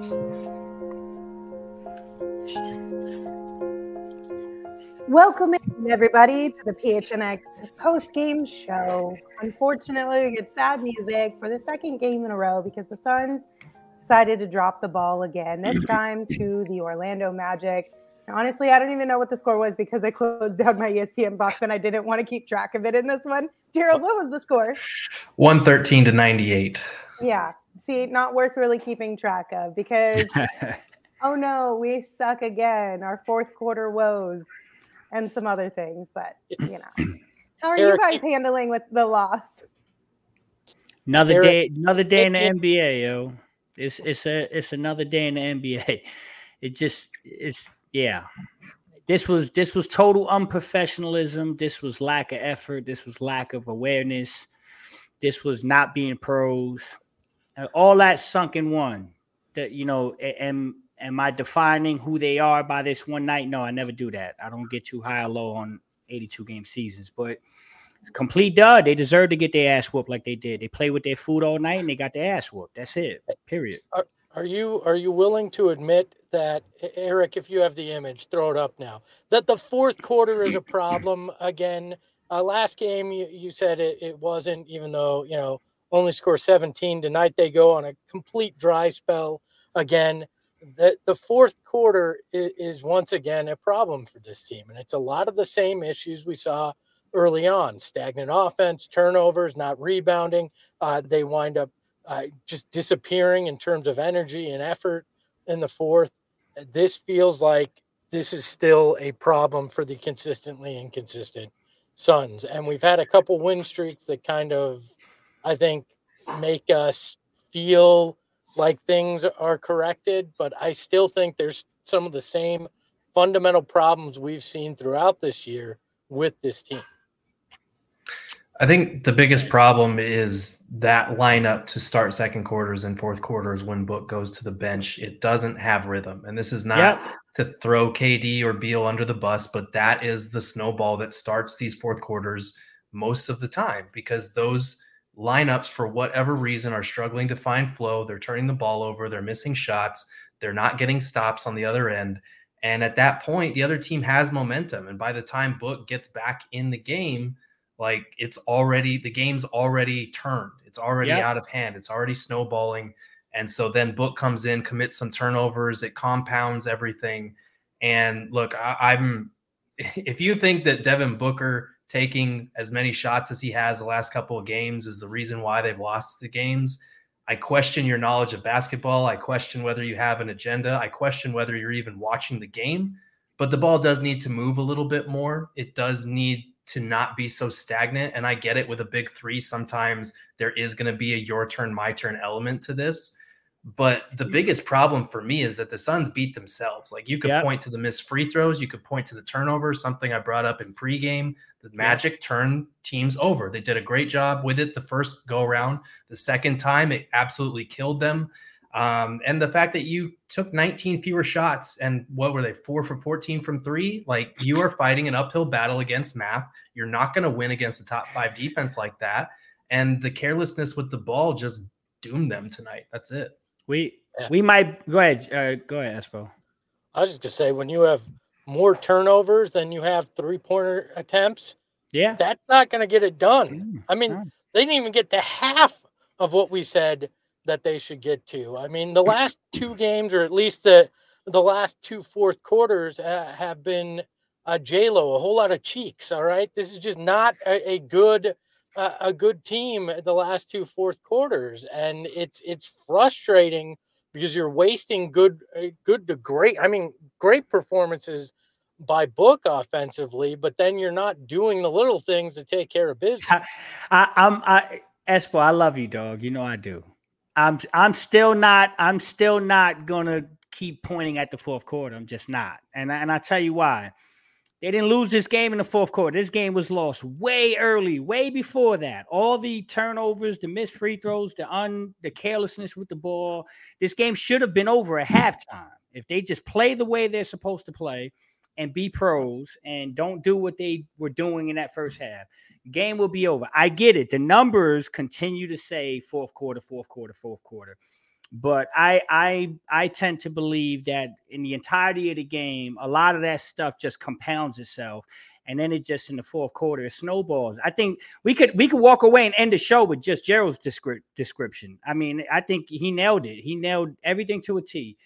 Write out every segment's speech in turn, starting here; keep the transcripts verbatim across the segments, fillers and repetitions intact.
Welcome in, everybody, to the P H N X post-game show. Unfortunately, we get sad music for the second game in a row because the Suns decided to drop the ball again, this time to the Orlando Magic. And honestly, I don't even know what the score was because I closed down my E S P N box and I didn't want to keep track of it in this one. Gerald, what was the score? one thirteen to ninety-eight. Yeah, see, not worth really keeping track of because, oh no, we suck again. Our fourth quarter woes. And some other things, but you know, how are Eric, you guys handling with the loss? Another Eric, day, another day in the N B A, yo. It's it's a it's another day in the N B A. It just it's yeah. This was this was total unprofessionalism. This was lack of effort. This was lack of awareness. This was not being pros. All that sunk in one. That you know, and. Am I defining who they are by this one night? No, I never do that. I don't get too high or low on eighty-two game seasons, but it's complete dud. They deserve to get their ass whooped like they did. They played with their food all night and they got their ass whooped. That's it. Period. Are, are you are you willing to admit that, Eric, if you have the image, throw it up now, that the fourth quarter is a problem again? Uh, last game, you, you said it, it wasn't, even though, you know, only score seventeen. Tonight they go on a complete dry spell again. The, the fourth quarter is, is once again a problem for this team. And it's a lot of the same issues we saw early on. Stagnant offense, turnovers, not rebounding. Uh, they wind up uh, just disappearing in terms of energy and effort in the fourth. This feels like this is still a problem for the consistently inconsistent Suns. And we've had a couple win streaks that kind of, I think, make us feel like things are corrected, but I still think there's some of the same fundamental problems we've seen throughout this year with this team. I think the biggest problem is that lineup to start second quarters and fourth quarters when Book goes to the bench. It doesn't have rhythm. And this is not yep. to throw K D or Beal under the bus, but that is the snowball that starts these fourth quarters most of the time because those lineups, for whatever reason, are struggling to find flow. They're turning the ball over. They're missing shots. They're not getting stops on the other end. And at that point, the other team has momentum. And by the time Book gets back in the game, like it's already, the game's already turned. It's already yep. out of hand. It's already snowballing. And so then Book comes in, commits some turnovers. It compounds everything. And look, I, I'm, if you think that Devin Booker taking as many shots as he has the last couple of games is the reason why they've lost the games, I question your knowledge of basketball. I question whether you have an agenda. I question whether you're even watching the game. But the ball does need to move a little bit more. It does need to not be so stagnant. And I get it with a big three. Sometimes there is going to be a your turn, my turn element to this. But the biggest problem for me is that the Suns beat themselves. Like you could yep. point to the missed free throws. You could point to the turnovers, something I brought up in pregame. The Magic yep. turned teams over. They did a great job with it the first go around. The second time, it absolutely killed them. Um, and the fact that you took nineteen fewer shots and what were they, four for fourteen from three? Like you are fighting an uphill battle against math. You're not going to win against a top five defense like that. And the carelessness with the ball just doomed them tonight. That's it. We yeah. we might go ahead. Uh, go ahead, Espo. I was just gonna say when you have more turnovers than you have three pointer attempts, yeah, that's not gonna get it done. Mm, I mean, yeah. they didn't even get to half of what we said that they should get to. I mean, the last two games, or at least the the last two fourth quarters, uh, have been uh, J-Lo, a whole lot of cheeks. All right, this is just not a, a good. Uh, a good team the last two fourth quarters, and it's it's frustrating because you're wasting good good to great I mean great performances by Book offensively, but then you're not doing the little things to take care of business. I, I, I'm I Espo, I love you, dog. You know I do. I'm I'm still not I'm still not gonna keep pointing at the fourth quarter. I'm just not, and and I tell you why. They didn't lose this game in the fourth quarter. This game was lost way early, way before that. All the turnovers, the missed free throws, the un, the carelessness with the ball. This game should have been over at halftime. If they just play the way they're supposed to play and be pros and don't do what they were doing in that first half, game will be over. I get it. The numbers continue to say fourth quarter, fourth quarter, fourth quarter. But I I I tend to believe that in the entirety of the game, a lot of that stuff just compounds itself. And then it just in the fourth quarter, it snowballs. I think we could we could walk away and end the show with just Gerald's descri- description. I mean, I think he nailed it. He nailed everything to a T.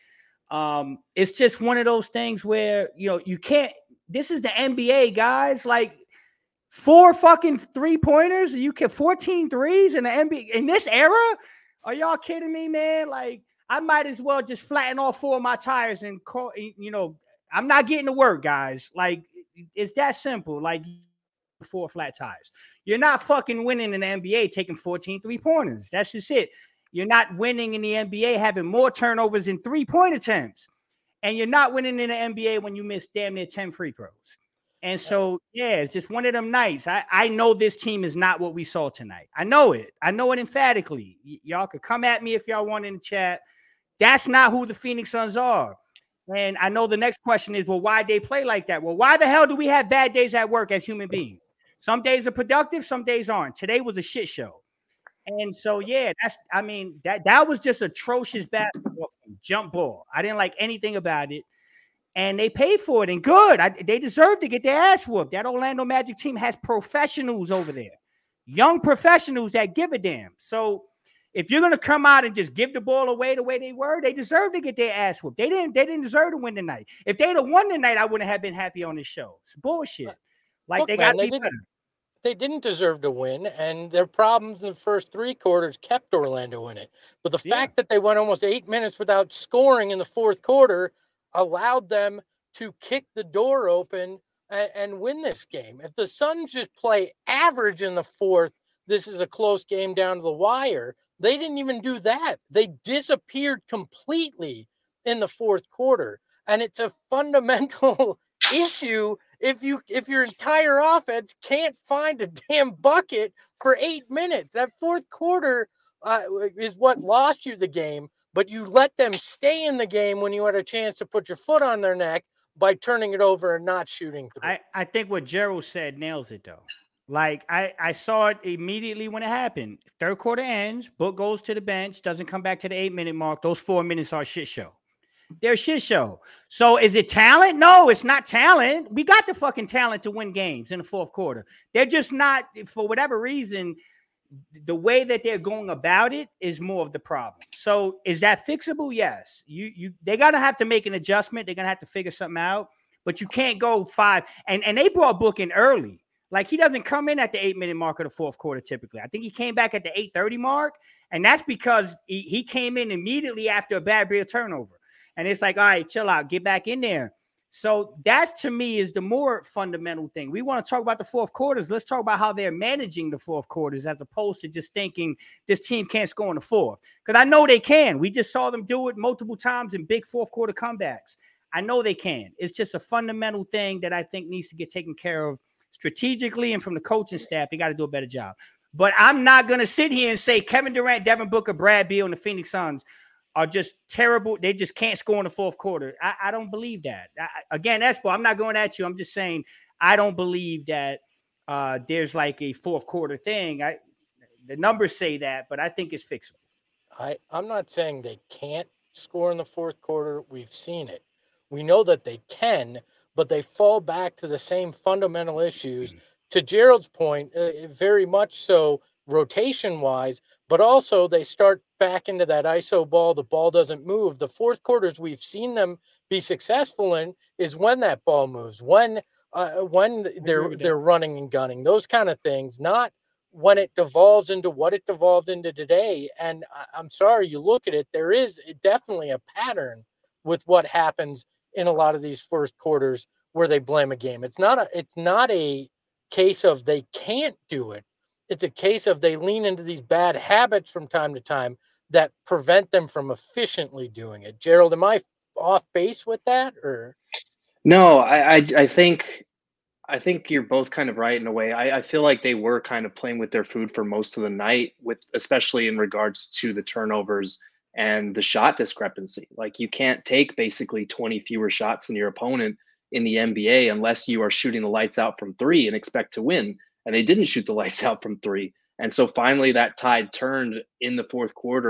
Um, it's just one of those things where, you know, you can't, this is the N B A, guys. Like four fucking three pointers. You can fourteen threes in the N B A in this era. Are y'all kidding me, man? Like I might as well just flatten all four of my tires and call, you know, I'm not getting to work, guys. Like it's that simple. Like four flat tires. You're not fucking winning in the N B A taking fourteen three pointers. That's just it. You're not winning in the N B A having more turnovers in three-point attempts. And you're not winning in the N B A when you miss damn near ten free throws. And so, yeah, it's just one of them nights. I, I know this team is not what we saw tonight. I know it. I know it emphatically. Y- y'all could come at me if y'all want in the chat. That's not who the Phoenix Suns are. And I know the next question is, well, why they play like that? Well, why the hell do we have bad days at work as human beings? Some days are productive, some days aren't. Today was a shit show. And so, yeah, that's, I mean, that, that was just atrocious basketball, jump ball. I didn't like anything about it. And they paid for it, and good. I, they deserve to get their ass whooped. That Orlando Magic team has professionals over there, young professionals that give a damn. So if you're going to come out and just give the ball away the way they were, they deserve to get their ass whooped. They didn't, they didn't deserve to win tonight. If they'd have won tonight, I wouldn't have been happy on this show. It's bullshit. Like Look, they man, got they me didn't, better. they didn't deserve to win, and their problems in the first three quarters kept Orlando in it. But the Yeah. fact that they went almost eight minutes without scoring in the fourth quarter allowed them to kick the door open and, and win this game. If the Suns just play average in the fourth, this is a close game down to the wire. They didn't even do that. They disappeared completely in the fourth quarter. And it's a fundamental issue if you if your entire offense can't find a damn bucket for eight minutes. That fourth quarter uh, is what lost you the game, but you let them stay in the game when you had a chance to put your foot on their neck by turning it over and not shooting through. I, I think what Gerald said nails it, though. Like, I, I saw it immediately when it happened. Third quarter ends, Book goes to the bench, doesn't come back to the eight-minute mark. Those four minutes are a shit show. They're a shit show. So is it talent? No, it's not talent. We got the fucking talent to win games in the fourth quarter. They're just not, for whatever reason, the way that they're going about it is more of the problem. So is that fixable? Yes. You you they're gonna have to make an adjustment. They're gonna have to figure something out. But you can't go five. And and they brought Book in early. Like he doesn't come in at the eight minute mark of the fourth quarter typically. I think he came back at the eight thirty mark, and that's because he, he came in immediately after a bad real turnover. And it's like, all right, chill out, get back in there. So that to me is the more fundamental thing. We want to talk about the fourth quarters. Let's talk about how they're managing the fourth quarters as opposed to just thinking this team can't score in the fourth. Because I know they can. We just saw them do it multiple times in big fourth quarter comebacks. I know they can. It's just a fundamental thing that I think needs to get taken care of strategically, and from the coaching staff, they got to do a better job. But I'm not going to sit here and say Kevin Durant, Devin Booker, Brad Beal, and the Phoenix Suns are just terrible. They just can't score in the fourth quarter. I, I don't believe that. I, again, that's why I'm not going at you. I'm just saying I don't believe that uh, there's like a fourth quarter thing. I, the numbers say that, but I think it's fixable. I, I'm not saying they can't score in the fourth quarter. We've seen it. We know that they can, but they fall back to the same fundamental issues. Mm-hmm. To Gerald's point, uh, very much so rotation-wise, but also they start back into that I S O ball. The ball doesn't move. The fourth quarters we've seen them be successful in is when that ball moves, when uh, when they're they're running and gunning, those kind of things, not when it devolves into what it devolved into today. And I, I'm sorry, you look at it, there is definitely a pattern with what happens in a lot of these first quarters where they blame a game. It's not a it's not a case of they can't do it. It's a case of they lean into these bad habits from time to time that prevent them from efficiently doing it. Gerald, am I off base with that, or? No, I, I, I think, I think you're both kind of right in a way. I, I feel like they were kind of playing with their food for most of the night, with especially in regards to the turnovers and the shot discrepancy. Like you can't take basically twenty fewer shots than your opponent in the N B A unless you are shooting the lights out from three and expect to win. And they didn't shoot the lights out from three. And so finally that tide turned in the fourth quarter.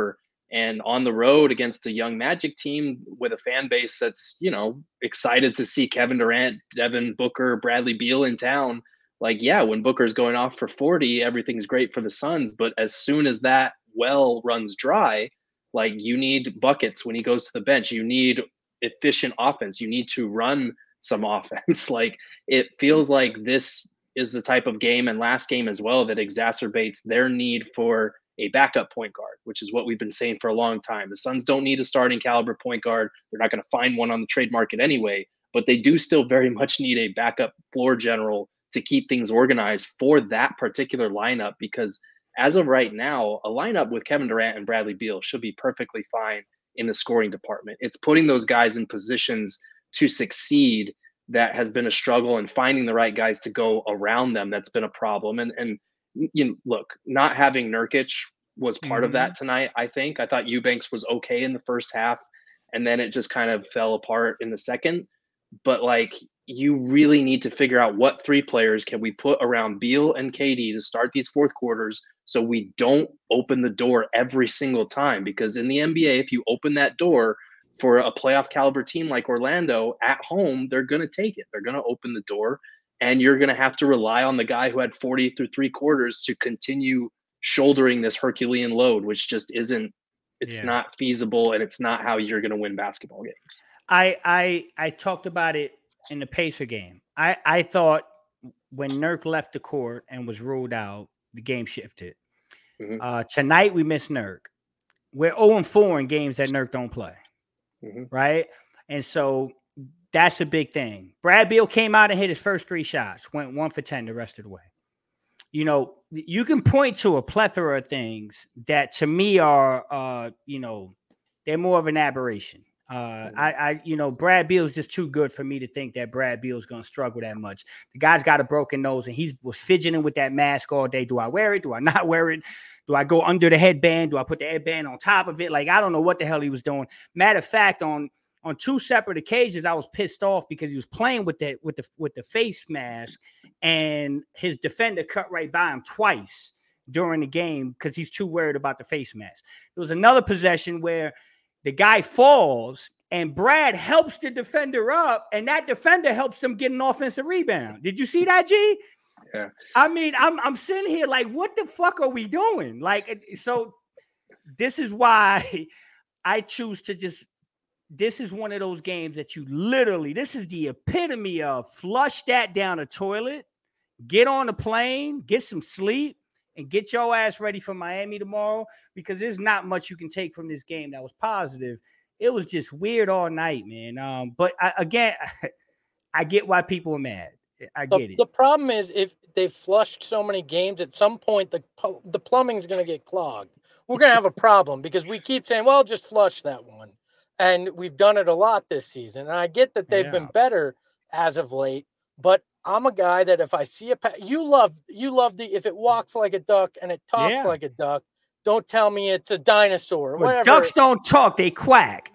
And on the road against a young Magic team with a fan base that's, you know, excited to see Kevin Durant, Devin Booker, Bradley Beal in town. Like, yeah, when Booker's going off for forty, everything's great for the Suns. But as soon as that well runs dry, like, you need buckets when he goes to the bench. You need efficient offense. You need to run some offense. Like, it feels like this is the type of game, and last game as well, that exacerbates their need for a backup point guard, which is what we've been saying for a long time. The Suns don't need a starting caliber point guard. They're not going to find one on the trade market anyway, but they do still very much need a backup floor general to keep things organized for that particular lineup, because as of right now, a lineup with Kevin Durant and Bradley Beal should be perfectly fine in the scoring department. It's putting those guys in positions to succeed that has been a struggle, and finding the right guys to go around them that's been a problem. And and you know, look, not having Nurkic was part mm-hmm. of that tonight. I think I thought Eubanks was okay in the first half, and then it just kind of fell apart in the second. But like, you really need to figure out what three players can we put around Beal and K D to start these fourth quarters, so we don't open the door every single time. Because in the N B A, if you open that door for a playoff caliber team like Orlando at home, they're going to take it. They're going to open the door, and you're going to have to rely on the guy who had forty through three quarters to continue shouldering this Herculean load, which just isn't, it's yeah. not feasible, and it's not how you're going to win basketball games. I, I, I talked about it in the Pacer game. I, I thought when Nurk left the court and was ruled out, the game shifted. Mm-hmm. Uh, tonight we missed Nurk. We're oh and four in games that Nurk don't play. Mm-hmm. Right. And so that's a big thing. Brad Beal came out and hit his first three shots, went one for ten the rest of the way. You know, you can point to a plethora of things that to me are, uh, you know, they're more of an aberration. Uh, I, I, you know, Brad Beal is just too good for me to think that Brad Beal is going to struggle that much. The guy's got a broken nose, and he was fidgeting with that mask all day. Do I wear it? Do I not wear it? Do I go under the headband? Do I put the headband on top of it? Like, I don't know what the hell he was doing. Matter of fact, on on two separate occasions, I was pissed off because he was playing with the with the with the face mask, and his defender cut right by him twice during the game because he's too worried about the face mask. There was another possession where the guy falls and Brad helps the defender up, and that defender helps them get an offensive rebound. Did you see that, G? Yeah. I mean, I'm I'm sitting here like, what the fuck are we doing? Like, so this is why I choose to just, this is one of those games that you literally, this is the epitome of flush that down the toilet, get on the plane, get some sleep, and get your ass ready for Miami tomorrow, because there's not much you can take from this game that was positive. It was just weird all night, man. Um, but I, again, I get why people are mad. I get the, it. The problem is, if they've flushed so many games, at some point the the plumbing is going to get clogged. We're going to have a problem because we keep saying, well, just flush that one. And we've done it a lot this season. And I get that they've yeah. been better as of late, but I'm a guy that if I see a pa- you love you love the if it walks like a duck and it talks yeah. like a duck, don't tell me it's a dinosaur. Or well, whatever. Ducks don't talk; they quack.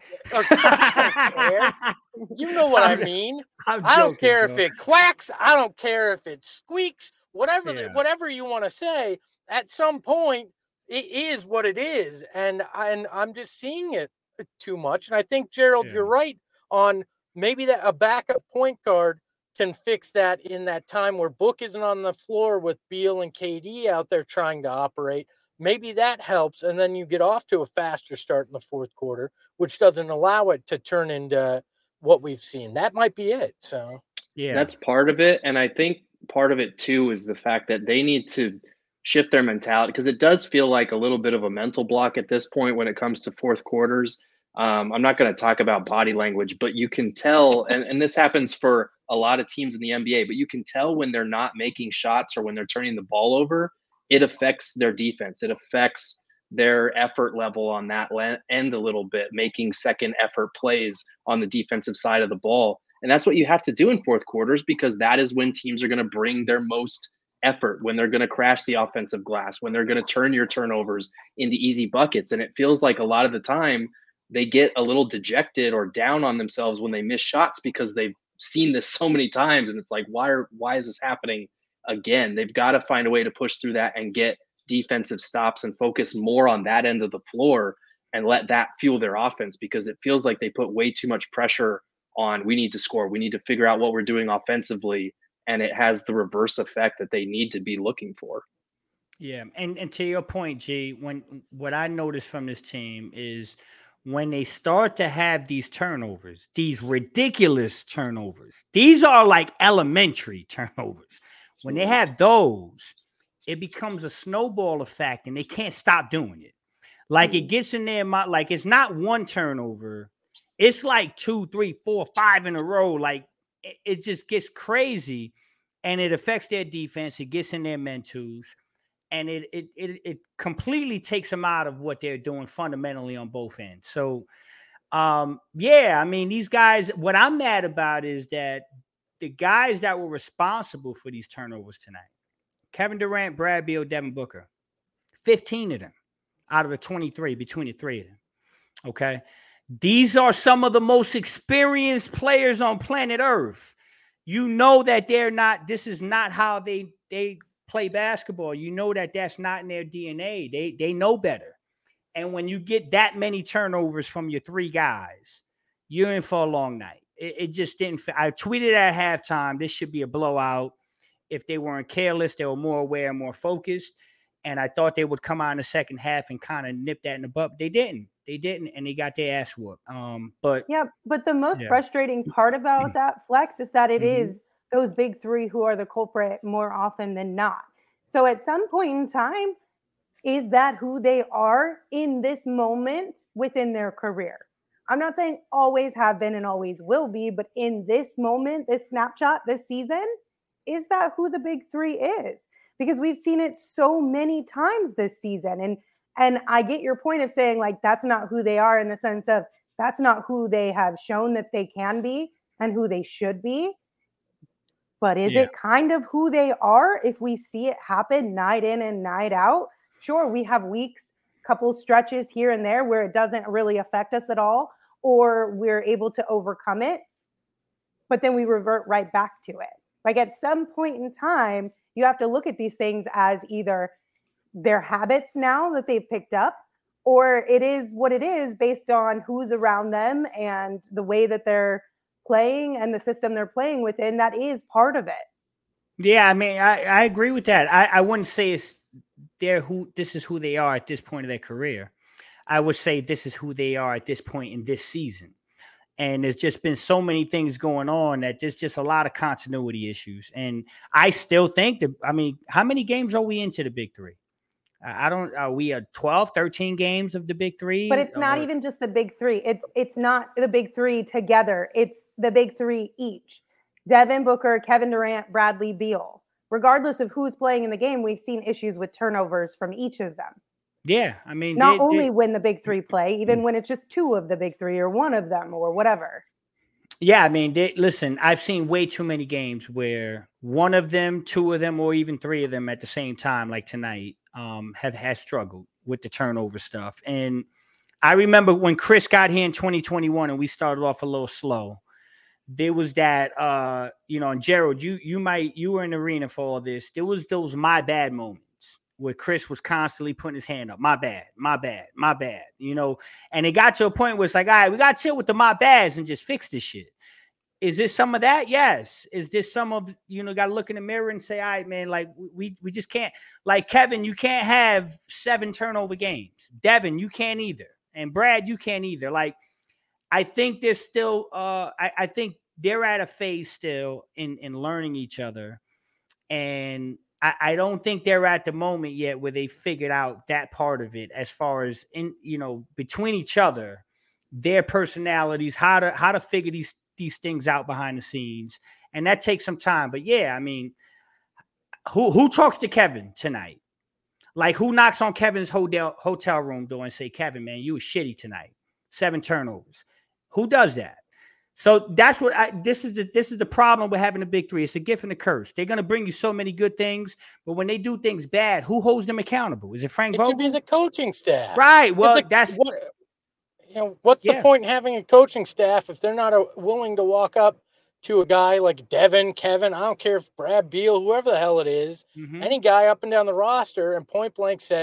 You know what I mean. I'm I don't joking, care bro. if it quacks. I don't care if it squeaks. Whatever, Yeah. the, whatever you want to say. At some point, it is what it is, and I, and I'm just seeing it too much. And I think Gerald, Yeah. you're right on maybe that a backup point guard can fix that in that time where Book isn't on the floor with Beal and K D out there trying to operate. Maybe that helps, and then you get off to a faster start in the fourth quarter, which doesn't allow it to turn into what we've seen. That might be it. So Yeah, That's part of it. And I think part of it too is the fact that they need to shift their mentality, because it does feel like a little bit of a mental block at this point when it comes to fourth quarters. Um, I'm not going to talk about body language, but you can tell, and, and this happens for a lot of teams in the N B A, but you can tell when they're not making shots or when they're turning the ball over, it affects their defense. It affects their effort level on that end a little bit, making second effort plays on the defensive side of the ball. And that's what you have to do in fourth quarters, because that is when teams are going to bring their most effort, when they're going to crash the offensive glass, when they're going to turn your turnovers into easy buckets. And it feels like a lot of the time they get a little dejected or down on themselves when they miss shots because they've seen this so many times. And it's like, why are, why is this happening again? They've got to find a way to push through that and get defensive stops and focus more on that end of the floor. and let that fuel their offense, because it feels like they put way too much pressure on, we need to score, we need to figure out what we're doing offensively, and it has the reverse effect that they need to be looking for. Yeah, and and to your point, G, when what I noticed from this team is when they start to have these turnovers, these ridiculous turnovers, these are like elementary turnovers. When they have those, it becomes a snowball effect, and they can't stop doing it. Like it gets in their mind, like it's not one turnover, it's like two, three, four, five in a row. Like it, it just gets crazy, and it affects their defense. It gets in their mentos. And it, it it it completely takes them out of what they're doing fundamentally on both ends. So, um, yeah, I mean, these guys, what I'm mad about is that the guys that were responsible for these turnovers tonight, Kevin Durant, Brad Beal, Devin Booker, fifteen of them out of the twenty-three, between the three of them, okay? These are some of the most experienced players on planet Earth. You know that they're not, this is not how they they – play basketball. You know that that's not in their D N A. They they know better. And when you get that many turnovers from your three guys, you're in for a long night. It, it just didn't. I tweeted at halftime, this should be a blowout. If they weren't careless, they were more aware, more focused. And I thought they would come out in the second half and kind of nip that in the butt. They didn't. They didn't, and they got their ass whooped. Um, but yeah, but the most yeah. frustrating part about that, Flex, is that it Mm-hmm. is those big three who are the culprit more often than not. So at some point in time, is that who they are in this moment within their career? I'm not saying always have been and always will be, but in this moment, this snapshot, this season, is that who the big three is? Because we've seen it so many times this season. And and I get your point of saying, like, that's not who they are, in the sense of that's not who they have shown that they can be and who they should be. But is Yeah. it kind of who they are if we see it happen night in and night out? Sure, we have weeks, couple stretches here and there where it doesn't really affect us at all, or we're able to overcome it, but then we revert right back to it. Like at some point in time, you have to look at these things as either their habits now that they've picked up, or it is what it is based on who's around them and the way that they're playing and the system they're playing within. That is part of it. Yeah, I mean, I, I agree with that. I, I wouldn't say it's they're who this is who they are at this point of their career. I would say this is who they are at this point in this season. And there's just been so many things going on that there's just a lot of continuity issues. And I still think that, I mean, how many games are we into the big three? I don't, are we at twelve, thirteen games of the big three? But it's not or, even just the big three. It's it's not the big three together. It's the big three each. Devin Booker, Kevin Durant, Bradley Beal. Regardless of who's playing in the game, we've seen issues with turnovers from each of them. Yeah, I mean, not they, only they, when the big three play, even when it's just two of the big three or one of them or whatever. Yeah, I mean, they, listen, I've seen way too many games where one of them, two of them, or even three of them at the same time, like tonight, um, have has struggled with the turnover stuff. And I remember when Chris got here in twenty twenty-one and we started off a little slow, there was that, uh, you know, and Gerald, you you might, you were in the arena for all this. There was those my bad moments where Chris was constantly putting his hand up. My bad, my bad, my bad, you know, and it got to a point where it's like, all right, we got to chill with the my bads and just fix this shit. Is this some of that? Yes. Is this some of, you know, got to look in the mirror and say, all right, man, like we, we just can't, like Kevin, you can't have seven turnover games. Devin, you can't either. And Brad, you can't either. Like, I think there's still, uh, I, I think they're at a phase still in, in learning each other. And I, I don't think they're at the moment yet where they figured out that part of it, as far as in, you know, between each other, their personalities, how to, how to figure these, these things out behind the scenes. And that takes some time. But yeah, I mean, who, who talks to Kevin tonight? Like, who knocks on Kevin's hotel, hotel room door and say, Kevin, man, you were shitty tonight. Seven turnovers. Who does that? So that's what I, this is the, this is the problem with having a big three. It's a gift and a curse. They're going to bring you so many good things, but when they do things bad, who holds them accountable? Is it Frank It Vogel? should be the coaching staff. Right. Well, the, that's what, you know, what's yeah. the point in having a coaching staff if they're not a, willing to walk up to a guy like Devin, Kevin, I don't care if Brad Beal, whoever the hell it is, mm-hmm. any guy up and down the roster and point blank say,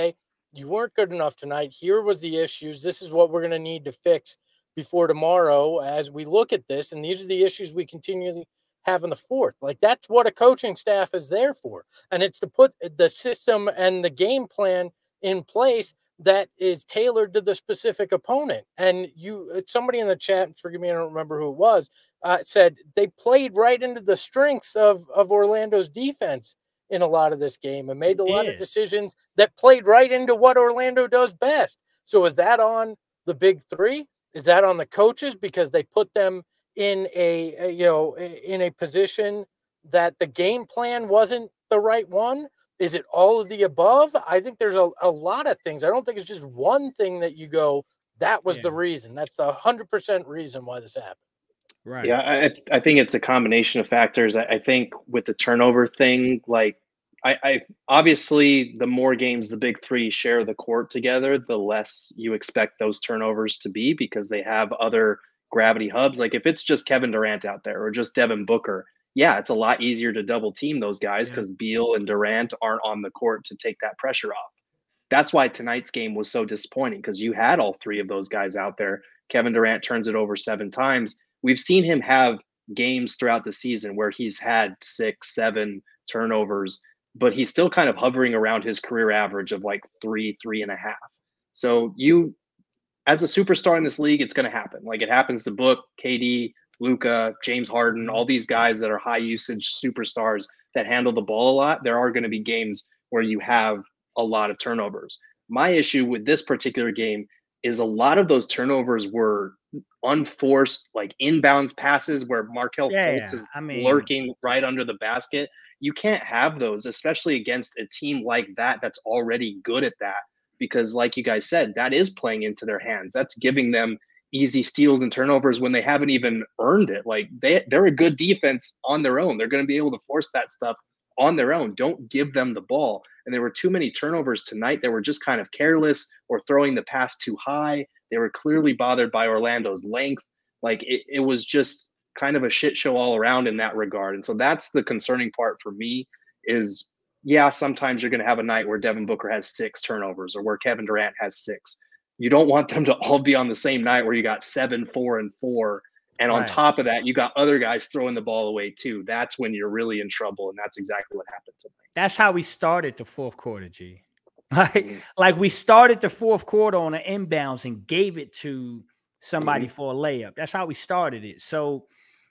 you weren't good enough tonight. Here was the issues. This is what we're going to need to fix before tomorrow as we look at this. And these are the issues we continually have in the fourth. Like, that's what a coaching staff is there for. And it's to put the system and the game plan in place that is tailored to the specific opponent. And you, somebody in the chat, forgive me, I don't remember who it was, uh, said they played right into the strengths of, of Orlando's defense in a lot of this game and made a lot of decisions that played right into what Orlando does best. So is that on the big three? Is that on the coaches because they put them in a, a you know, in a position that the game plan wasn't the right one? Is it all of the above? I think there's a, a lot of things. I don't think it's just one thing that you go, that was yeah. the reason. That's the one hundred percent reason why this happened. Right. Yeah, I, I think it's a combination of factors. I, I think with the turnover thing, like, I, I obviously the more games the big three share the court together, the less you expect those turnovers to be because they have other gravity hubs. Like if it's just Kevin Durant out there or just Devin Booker, yeah, it's a lot easier to double team those guys because yeah. Beal and Durant aren't on the court to take that pressure off. That's why tonight's game was so disappointing because you had all three of those guys out there. Kevin Durant turns it over seven times. We've seen him have games throughout the season where he's had six, seven turnovers, but he's still kind of hovering around his career average of like three, three and a half. So you, as a superstar in this league, it's going to happen. Like it happens to Book, K D, Luka, James Harden, all these guys that are high usage superstars that handle the ball a lot. There are going to be games where you have a lot of turnovers. My issue with this particular game is a lot of those turnovers were unforced, like inbounds passes where Markelle yeah, Fultz is I mean, lurking right under the basket. You can't have those, especially against a team like that that's already good at that. Because like you guys said, that is playing into their hands. That's giving them easy steals and turnovers when they haven't even earned it. Like they, they're a good defense on their own. They're going to be able to force that stuff on their own. Don't give them the ball. And there were too many turnovers tonight. They were just kind of careless or throwing the pass too high. They were clearly bothered by Orlando's length. Like it, it was just kind of a shit show all around in that regard. And so that's the concerning part for me is, yeah, sometimes you're going to have a night where Devin Booker has six turnovers or where Kevin Durant has six. You don't want them to all be on the same night where you got seven, four, and four. And on right. top of that, you got other guys throwing the ball away too. That's when you're really in trouble. And that's exactly what happened tonight. That's how we started the fourth quarter, G. Like, mm-hmm. like we started the fourth quarter on an inbounds and gave it to somebody mm-hmm. for a layup. That's how we started it. So,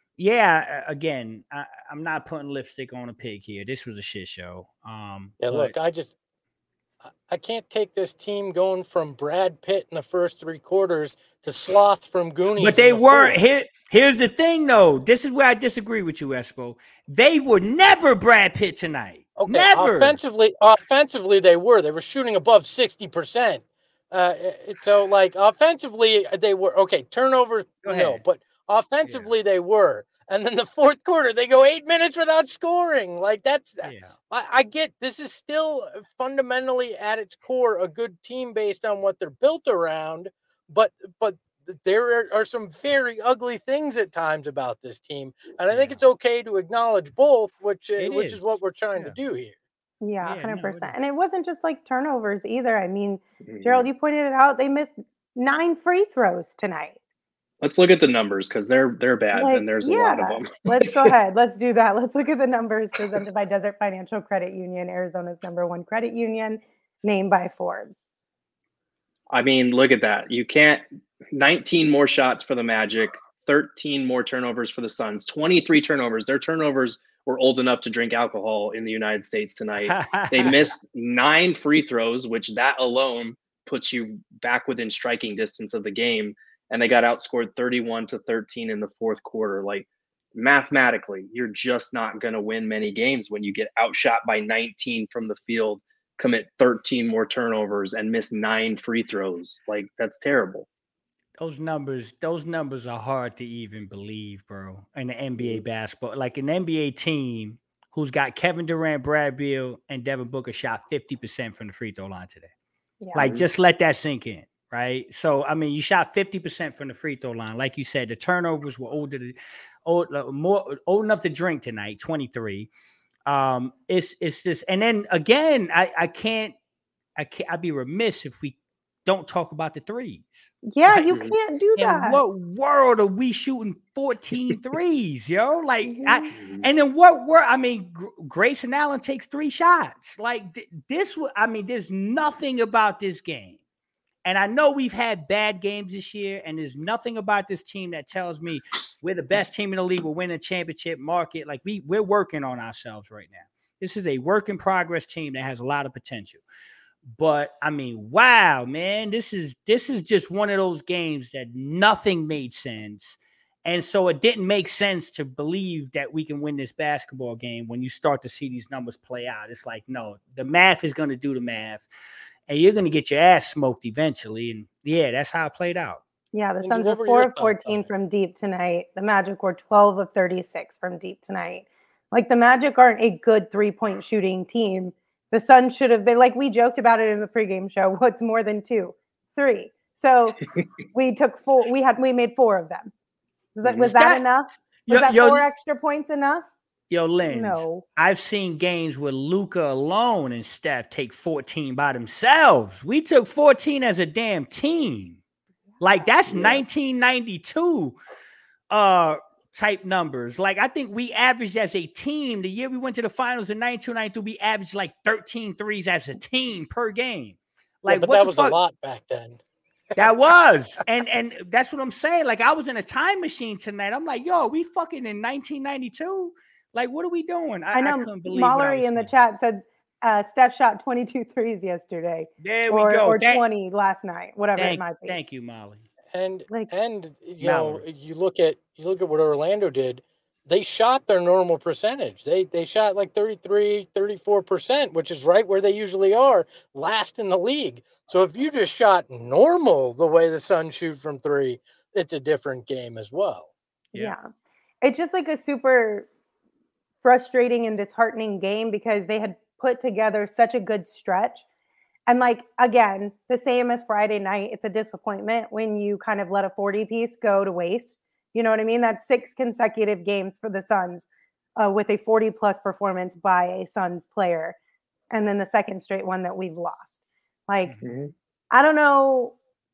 yeah, again, I, I'm not putting lipstick on a pig here. This was a shit show. Um, yeah, but, look, I just I can't take this team going from Brad Pitt in the first three quarters to Sloth from Goonies. But they the weren't. Here, here's the thing, though. This is where I disagree with you, Espo. They were never Brad Pitt tonight. Okay, never. Offensively, offensively, they were. They were shooting above sixty percent. Uh, so, like, offensively, they were. Okay, turnovers, no. But offensively, yeah. they were. And then the fourth quarter, they go eight minutes without scoring. Like that's, yeah. I, I get this is still fundamentally at its core a good team based on what they're built around. But but there are some very ugly things at times about this team, and I think yeah. it's okay to acknowledge both, which uh, which is. is what we're trying yeah. to do here. Yeah, one hundred percent. No, and it wasn't just like turnovers either. I mean, mm-hmm. Gerald, you pointed it out. They missed nine free throws tonight. Let's look at the numbers because they're they're bad like, and there's a yeah. lot of them. Let's go ahead. Let's do that. Let's look at the numbers presented by Desert Financial Credit Union, Arizona's number one credit union, named by Forbes. I mean, look at that. You can't nineteen more shots for the Magic, thirteen more turnovers for the Suns, twenty-three turnovers. Their turnovers were old enough to drink alcohol in the United States tonight. They missed nine free throws, which that alone puts you back within striking distance of the game. And they got outscored thirty-one to thirteen in the fourth quarter. Like mathematically, you're just not going to win many games when you get outshot by nineteen from the field, commit thirteen more turnovers, and miss nine free throws. Like that's terrible. Those numbers, those numbers are hard to even believe, bro. In the N B A basketball, like an N B A team who's got Kevin Durant, Brad Beal, and Devin Booker shot fifty percent from the free throw line today. Yeah. Like just let that sink in. Right. So, I mean, you shot fifty percent from the free throw line. Like you said, the turnovers were older, to, old, more old enough to drink tonight, twenty-three. Um, it's, it's just, and then again, I, I can't, I can't, I'd be remiss if we don't talk about the threes. Yeah, Like, you can't do that. in what world are we shooting fourteen threes, yo? Like, I, and in what world? I mean, G- Grayson Allen takes three shots. Like, th- this was, I mean, there's nothing about this game. And I know we've had bad games this year, and there's nothing about this team that tells me we're the best team in the league. We're winning a championship market. Like, we, we're working on ourselves right now. This is a work in progress team that has a lot of potential. But I mean, wow, man, this is this is just one of those games that nothing made sense. And so it didn't make sense to believe that we can win this basketball game when you start to see these numbers play out. It's like, no, the math is going to do the math, and you're going to get your ass smoked eventually. And yeah, that's how it played out. Yeah, the Lindsay, Suns were what were four your of fourteen thoughts on it? from deep tonight. The Magic were twelve of thirty-six from deep tonight. Like, the Magic aren't a good three-point shooting team. The Suns should have been, like we joked about it in the pregame show, what's more than two? Three. So we took four. We had we made four of them. Was that, was that, That- enough? Was Yo, that yo, four extra points enough? yo, Lens, No. I've seen games where Luka alone and Steph take fourteen by themselves. We took fourteen as a damn team. Like, that's Yeah. nineteen ninety-two uh, type numbers. Like, I think we averaged as a team, the year we went to the finals in ninety-two ninety-three, we averaged like thirteen threes as a team per game. Like, Yeah, but what that the was fuck? a lot back then. That was. And and that's what I'm saying. Like, I was in a time machine tonight. I'm like, yo, we fucking in nineteen ninety-two? Like, what are we doing? I, I know I couldn't believe what I Mallory was in the seeing. chat said uh, Steph shot twenty-two threes yesterday. There or, we go. Or Thank- twenty last night, whatever thank, it might be. thank you, Molly. And Like- and you know, Mallory. you look at you look at what Orlando did. They shot their normal percentage. They they shot like thirty-three, thirty-four percent, which is right where they usually are, last in the league. So if you just shot normal the way the Suns shoot from three, it's a different game as well. Yeah. Yeah. It's just like a super frustrating and disheartening game because they had put together such a good stretch. And like, again, the same as Friday night, it's a disappointment when you kind of let a forty piece go to waste. You know what I mean? That's six consecutive games for the Suns uh, with a forty plus performance by a Suns player. And then the second straight one that we've lost. Like, Mhm. I don't know.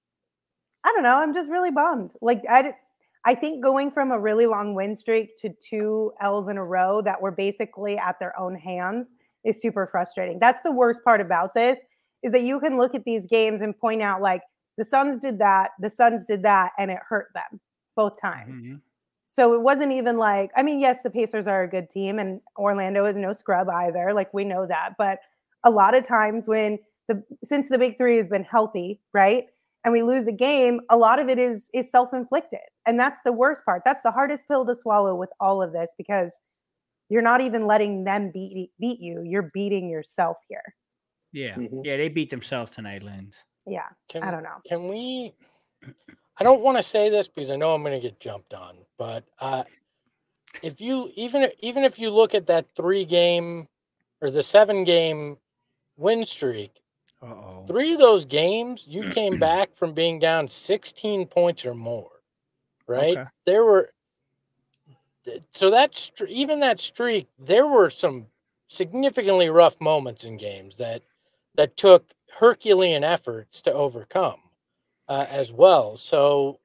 I don't know. I'm just really bummed. Like, I, I think going from a really long win streak to two L's in a row that were basically at their own hands is super frustrating. That's the worst part about this, is that you can look at these games and point out, like, the Suns did that, the Suns did that, and it hurt them both times. Mhm. So it wasn't even like, I mean, yes, the Pacers are a good team and Orlando is no scrub either. Like, we know that. But a lot of times when the, since the big three has been healthy, right? And we lose a game, a lot of it is, is self-inflicted. And that's the worst part. That's the hardest pill to swallow with all of this, because you're not even letting them beat, beat you. You're beating yourself here. Yeah. Mhm. Yeah, they beat themselves tonight, Lens. Yeah. Can, I don't know. Can we? I don't want to say this because I know I'm going to get jumped on, but uh, if you even even if you look at that three game or the seven game win streak, Uh-oh. three of those games you came back from being down sixteen points or more, right? Okay. There were so that str- even that streak, there were some significantly rough moments in games that that took Herculean efforts to overcome. Uh, as well, so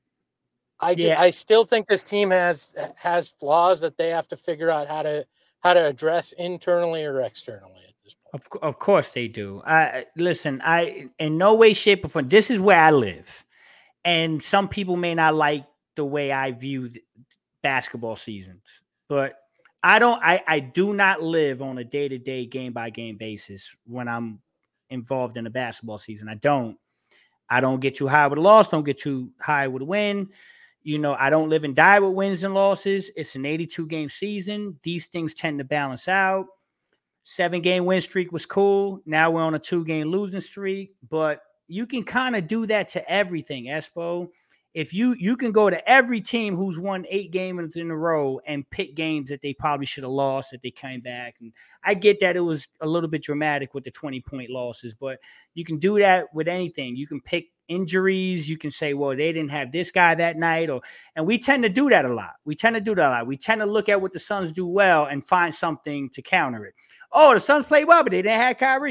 I ju- Yeah. I still think this team has has flaws that they have to figure out how to how to address internally or externally at this point. Of, cou- of course they do. I listen, I in no way, shape, or form. This is where I live. And some people may not like the way I view the basketball seasons, but I don't I, I do not live on a day-to-day, game-by-game basis when I'm involved in a basketball season. I don't. I don't get too high with a loss, don't get too high with a win. You know, I don't live and die with wins and losses. It's an eighty-two game season. These things tend to balance out. Seven game win streak was cool. Now we're on a two game losing streak, but you can kind of do that to everything, Espo. If you you can go to every team who's won eight games in a row and pick games that they probably should have lost, that they came back. And I get that it was a little bit dramatic with the twenty point losses, but you can do that with anything. You can pick injuries. You can say, well, they didn't have this guy that night. Or and we tend to do that a lot. We tend to do that a lot. We tend to look at what the Suns do well and find something to counter it. Oh, the Suns played well, but they didn't have Kyrie.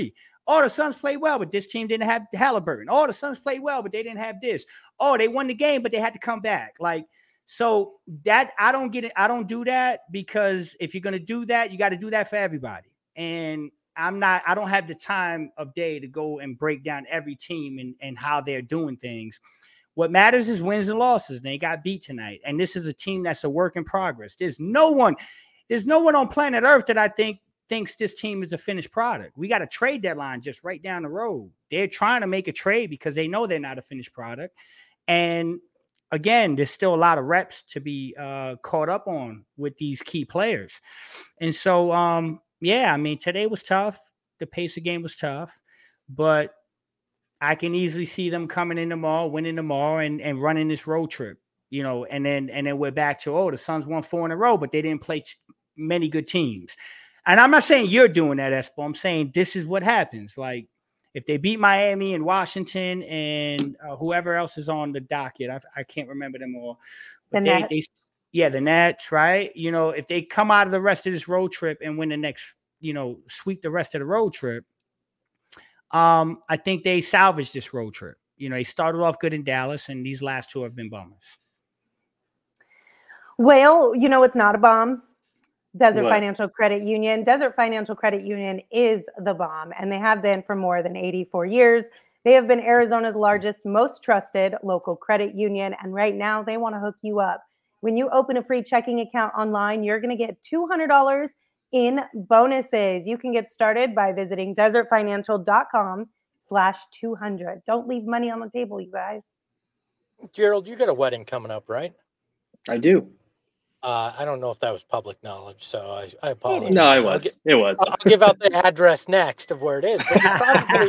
Oh, the Suns played well, but this team didn't have Halliburton. Oh, the Suns played well, but they didn't have this. Oh, they won the game, but they had to come back. Like, so that I don't get it. I don't do that because if you're going to do that, you got to do that for everybody. And I'm not, I don't have the time of day to go and break down every team and, and how they're doing things. What matters is wins and losses. And they got beat tonight. And this is a team that's a work in progress. There's no one, there's no one on planet Earth that I think thinks this team is a finished product. We got a trade deadline just right down the road. They're trying to make a trade because they know they're not a finished product. And again, there's still a lot of reps to be uh, caught up on with these key players. And so, um, yeah, I mean, today was tough. The pace of game was tough, but I can easily see them coming in tomorrow, winning tomorrow, and, and running this road trip, you know, and then, and then we're back to, oh, the Suns won four in a row, but they didn't play t- many good teams. And I'm not saying you're doing that, Espo. I'm saying this is what happens. Like, if they beat Miami and Washington and uh, whoever else is on the docket, I, I can't remember them all. But the they, Nets. they, yeah, the Nets, right? You know, if they come out of the rest of this road trip and win the next, you know, sweep the rest of the road trip, um, I think they salvage this road trip. You know, they started off good in Dallas, and these last two have been bummers. Well, you know, it's not a bomb. Desert What? Financial Credit Union. Desert Financial Credit Union is the bomb, and they have been for more than eighty-four years. They have been Arizona's largest, most trusted local credit union, and right now they want to hook you up. When you open a free checking account online, you're going to get two hundred dollars in bonuses. You can get started by visiting desertfinancial.com slash 200. Don't leave money on the table, you guys. Gerald, you got a wedding coming up, right? I do. Uh, I don't know if that was public knowledge, so I, I apologize. No, it I'll was. gi- It was. I'll give out the address next of where it is. But you probably,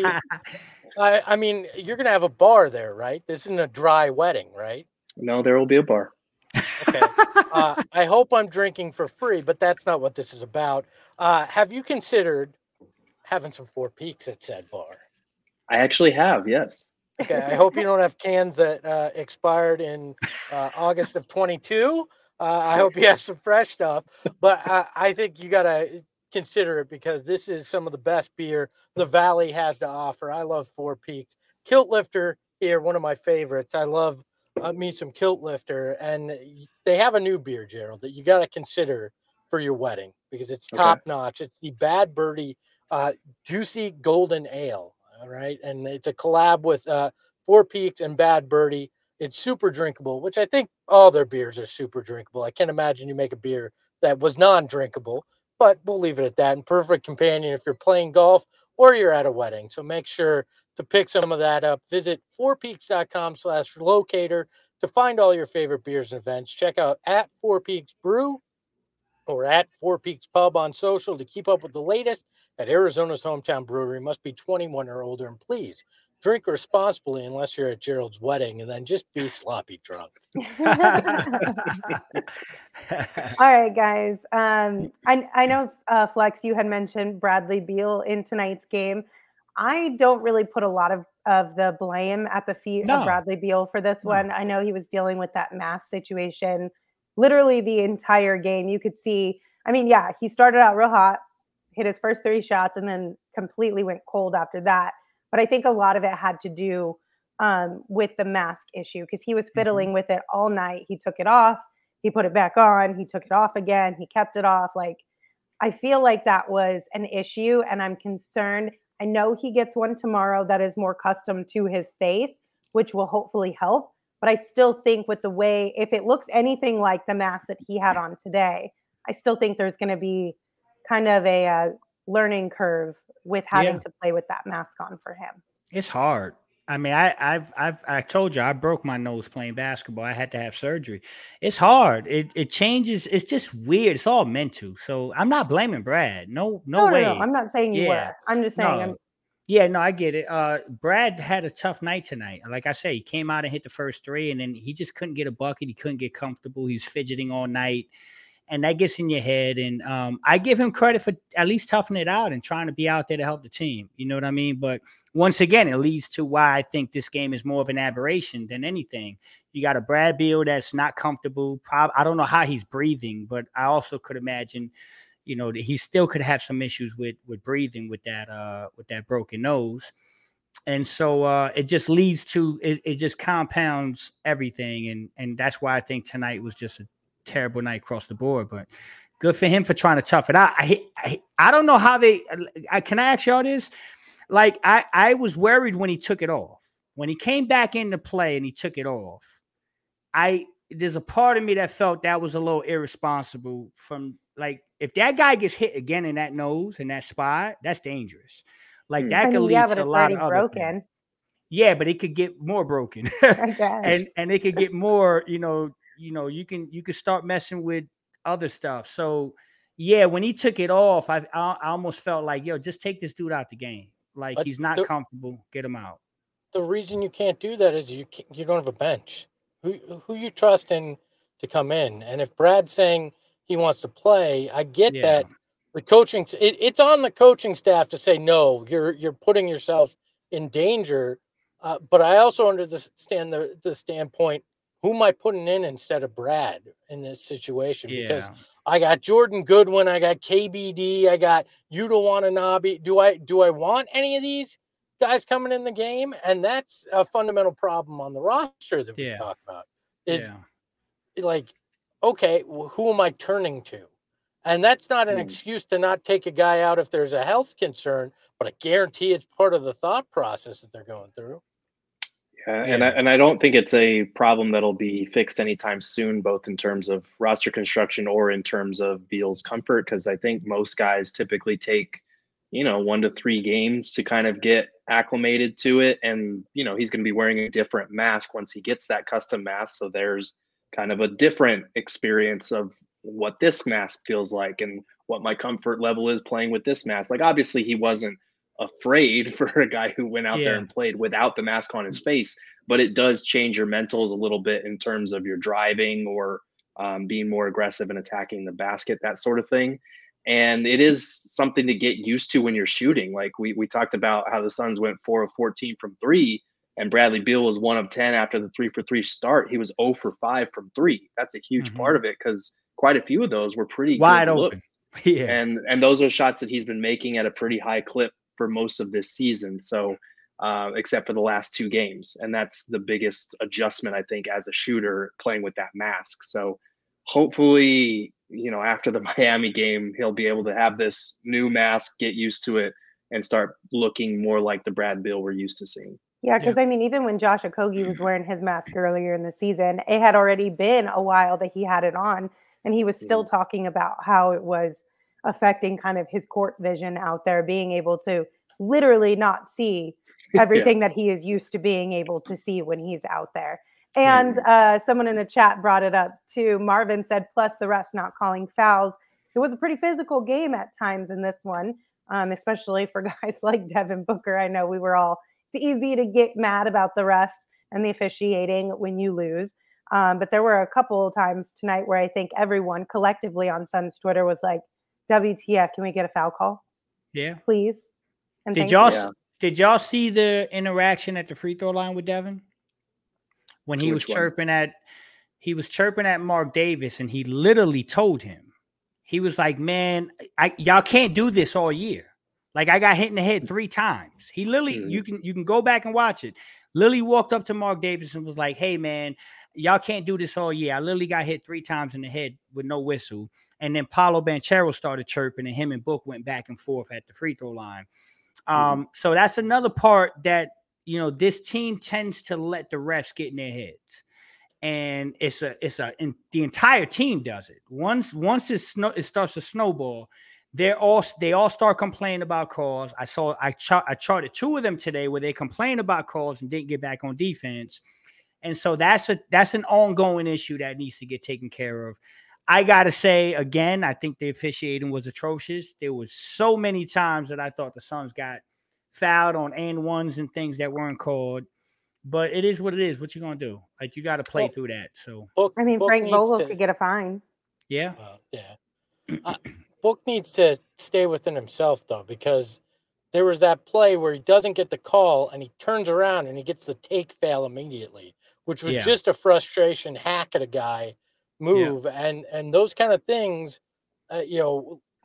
I, I mean, you're going to have a bar there, right? This isn't a dry wedding, right? No, there will be a bar. Okay. Uh, I hope I'm drinking for free, but that's not what this is about. Uh, have you considered having some Four Peaks at said bar? I actually have, yes. Okay. I hope you don't have cans that uh, expired in uh, August of twenty-two. Uh, I hope you have some fresh stuff, but I, I think you got to consider it because this is some of the best beer the Valley has to offer. I love Four Peaks. Kilt Lifter here, one of my favorites. I love uh, me some Kilt Lifter, and they have a new beer, Gerald, that you got to consider for your wedding because it's Okay. top notch. It's the Bad Birdie uh, Juicy Golden Ale, all right? And it's a collab with uh, Four Peaks and Bad Birdie. It's super drinkable, which I think all their beers are super drinkable. I can't imagine you make a beer that was non-drinkable, but we'll leave it at that. And perfect companion if you're playing golf or you're at a wedding. So make sure to pick some of that up. Visit fourpeaks.com slash locator to find all your favorite beers and events. Check out at Four Peaks Brew or at Four Peaks Pub on social to keep up with the latest at Arizona's hometown brewery. Must be twenty-one or older, and please drink responsibly unless you're at Gerald's wedding, and then just be sloppy drunk. All right, guys. Um, I, I know, uh, Flex, you had mentioned Bradley Beal in tonight's game. I don't really put a lot of, of the blame at the feet No. of Bradley Beal for this No. one. I know he was dealing with that mask situation literally the entire game. You could see, I mean, yeah, he started out real hot, hit his first three shots, and then completely went cold after that. But I think a lot of it had to do um, with the mask issue because he was fiddling mm-hmm. with it all night. He took it off, he put it back on, he took it off again, he kept it off. Like, I feel like that was an issue, and I'm concerned. I know he gets one tomorrow that is more custom to his face, which will hopefully help. But I still think with the way, if it looks anything like the mask that he had on today, I still think there's going to be kind of a uh, learning curve with having yeah. to play with that mask on for him. It's hard. I mean, I, I've, I've, I told you I broke my nose playing basketball. I had to have surgery. It's hard. It, it changes. It's just weird. It's all mental. So I'm not blaming Brad. No, no, no way. No, no. I'm not saying you yeah. were. I'm just saying. No. I'm- Yeah, no, I get it. Uh, Brad had a tough night tonight. Like I say, he came out and hit the first three, and then he just couldn't get a bucket. He couldn't get comfortable. He was fidgeting all night. And that gets in your head. And um, I give him credit for at least toughing it out and trying to be out there to help the team. You know what I mean? But once again, it leads to why I think this game is more of an aberration than anything. You got a Brad Beal that's not comfortable. Prob- I don't know how he's breathing, but I also could imagine, you know, he still could have some issues with with breathing with that uh with that broken nose. And so uh, it just leads to it, it just compounds everything. And and that's why I think tonight was just a terrible night across the board. But good for him for trying to tough it out. I I, I don't know how they I can I ask y'all this? Like I, I was worried when he took it off. When he came back into play and he took it off, I there's a part of me that felt that was a little irresponsible from like if that guy gets hit again in that nose in that spot, that's dangerous. Like that I mean, could lead yeah, to but a it's lot already of other broken. things. Yeah, but it could get more broken. I guess. and and it could get more, you know, you know, you can you can start messing with other stuff. So yeah, when he took it off, I I, I almost felt like, yo, just take this dude out the game. Like But he's not the- comfortable. Get him out. The reason you can't do that is you can't, you don't have a bench. Who who you trust in to come in? And if Brad's saying he wants to play, I get Yeah. that. The coaching it, it's on the coaching staff to say no. You're you're putting yourself in danger. Uh, but I also understand the the standpoint. Who am I putting in instead of Brad in this situation? Because Yeah. I got Jordan Goodwin, I got K B D, I got Yuta Watanabe. Do I do I want any of these guys coming in the game? And that's a fundamental problem on the roster that we Yeah. talk about. Is Yeah. like, okay, well, who am I turning to? And that's not an Hmm. excuse to not take a guy out if there's a health concern, but I guarantee it's part of the thought process that they're going through. Yeah, and I, Yeah. and I don't think it's a problem that'll be fixed anytime soon, both in terms of roster construction or in terms of Beal's comfort, because I think most guys typically take, you know, one to three games to kind of get acclimated to it. And, you know, he's going to be wearing a different mask once he gets that custom mask. So there's kind of a different experience of what this mask feels like and what my comfort level is playing with this mask. Like, obviously, he wasn't afraid for a guy who went out there Yeah. and played without the mask on his face, but it does change your mentals a little bit in terms of your driving or um, being more aggressive and attacking the basket, that sort of thing. And it is something to get used to when you're shooting. Like we we talked about how the Suns went four of fourteen from three, and Bradley Beal was one of ten after the three for three start. He was zero for five from three. That's a huge Mhm. part of it because quite a few of those were pretty Wide good open. looks. Yeah. And and those are shots that he's been making at a pretty high clip for most of this season. So uh, except for the last two games. And that's the biggest adjustment, I think, as a shooter playing with that mask. So hopefully, you know, after the Miami game, he'll be able to have this new mask, get used to it, and start looking more like the Brad Beal we're used to seeing. Yeah, because I mean, even when Josh Okogie was wearing his mask earlier in the season, it had already been a while that he had it on, and he was still talking about how it was affecting kind of his court vision out there, being able to literally not see everything that he is used to being able to see when he's out there. And uh, someone in the chat brought it up too. Marvin said, plus the refs not calling fouls. It was a pretty physical game at times in this one, um, especially for guys like Devin Booker. I know we were all, it's easy to get mad about the refs and the officiating when you lose. Um, but there were a couple of times tonight where I think everyone collectively on Suns Twitter was like, W T F, can we get a foul call? Yeah. Please. And Did thank y'all you. Yeah. did y'all see the interaction at the free throw line with Devin? When he Which was one? chirping at he was chirping at Mark Davis, and he literally told him, he was like, man, I y'all can't do this all year. Like I got hit in the head three times. He literally, Mhm. you can you can go back and watch it. Lily walked up to Mark Davis and was like, hey man, y'all can't do this all year. I literally got hit three times in the head with no whistle. And then Paolo Banchero started chirping, and him and Book went back and forth at the free throw line. Um, so that's another part that, you know, this team tends to let the refs get in their heads. And it's a, it's a, and the entire team does it. Once, once it, snow, it starts to snowball, they're all, they all start complaining about calls. I saw, I, chart, I charted two of them today where they complained about calls and didn't get back on defense. And so that's a, that's an ongoing issue that needs to get taken care of. I got to say, again, I think the officiating was atrocious. There was so many times that I thought the Suns got fouled on and ones and things that weren't called. But it is what it is. What you going to do? Like, you got to play Well, through that. So, Book, I mean, Book Frank needs Vogel to- could get a fine. yeah. Well, yeah. Uh, Book needs to stay within himself, though, because there was that play where he doesn't get the call and he turns around and he gets the take fail immediately, which was Yeah. just a frustration hack at a guy move. And, and those kind of things, uh, you know,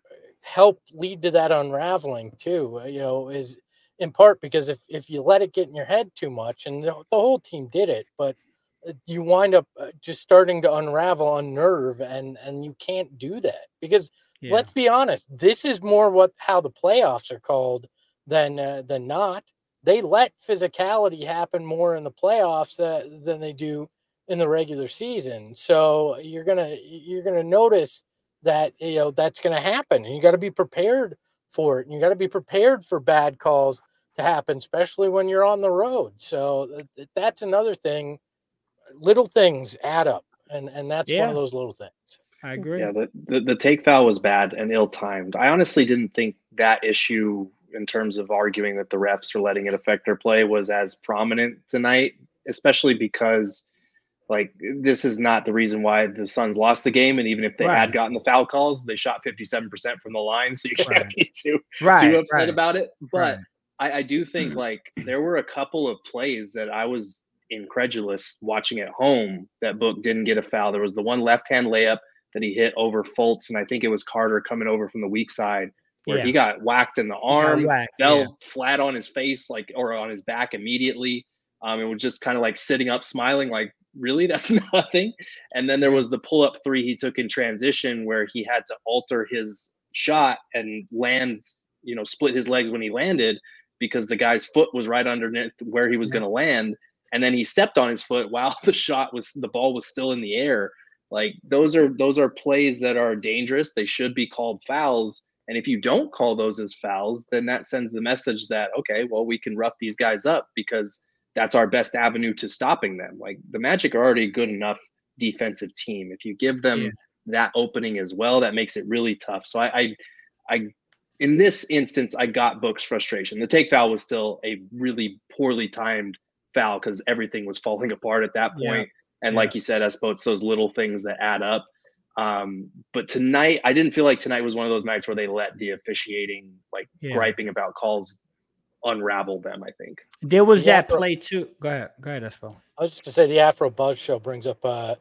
help lead to that unraveling too. You know, is in part because if if you let it get in your head too much, and the, the whole team did it, but you wind up just starting to unravel, unnerve, and and you can't do that because yeah. let's be honest, this is more what how the playoffs are called than uh, than not. They let physicality happen more in the playoffs uh, than they do in the regular season. So you're gonna you're gonna notice that you know that's gonna happen, and you got to be prepared for it. And you got to be prepared for bad calls to happen, especially when you're on the road. So th- that's another thing. Little things add up, and and that's yeah. one of those little things. I agree. Yeah, the, the the take foul was bad and ill-timed. I honestly didn't think that issue in terms of arguing that the refs are letting it affect their play was as prominent tonight, especially because like this is not the reason why the Suns lost the game. And even if they right. had gotten the foul calls, they shot fifty-seven percent from the line. So you can't right. be too, right. too upset right. about it. But right. I, I do think like there were a couple of plays that I was incredulous watching at home that Book didn't get a foul. There was the one left-hand layup that he hit over Fultz, and I think it was Carter coming over from the weak side where yeah. he got whacked in the arm, whacked, fell yeah. flat on his face, like, or on his back immediately. Um, and was just kind of like sitting up, smiling, like, really, that's nothing. And then there was the pull-up three he took in transition where he had to alter his shot and lands, you know, split his legs when he landed because the guy's foot was right underneath where he was yeah. going to land. And then he stepped on his foot while the shot was, the ball was still in the air. Like those are, those are plays that are dangerous. They should be called fouls. And if you don't call those as fouls, then that sends the message that, okay, well, we can rough these guys up because that's our best avenue to stopping them. Like the Magic are already a good enough defensive team. If you give them yeah. that opening as well, that makes it really tough. So I, I, I, in this instance, I got Book's frustration. The take foul was still a really poorly timed foul because everything was falling apart at that point. Yeah. And yeah. like you said, Espo, it's those little things that add up. Um, but tonight, I didn't feel like tonight was one of those nights where they let the officiating, like yeah. griping about calls, unravel them. I think there was the that Afro, play too. Go ahead, go ahead, Espo. I was just to say the Afro Buzz Show brings up uh,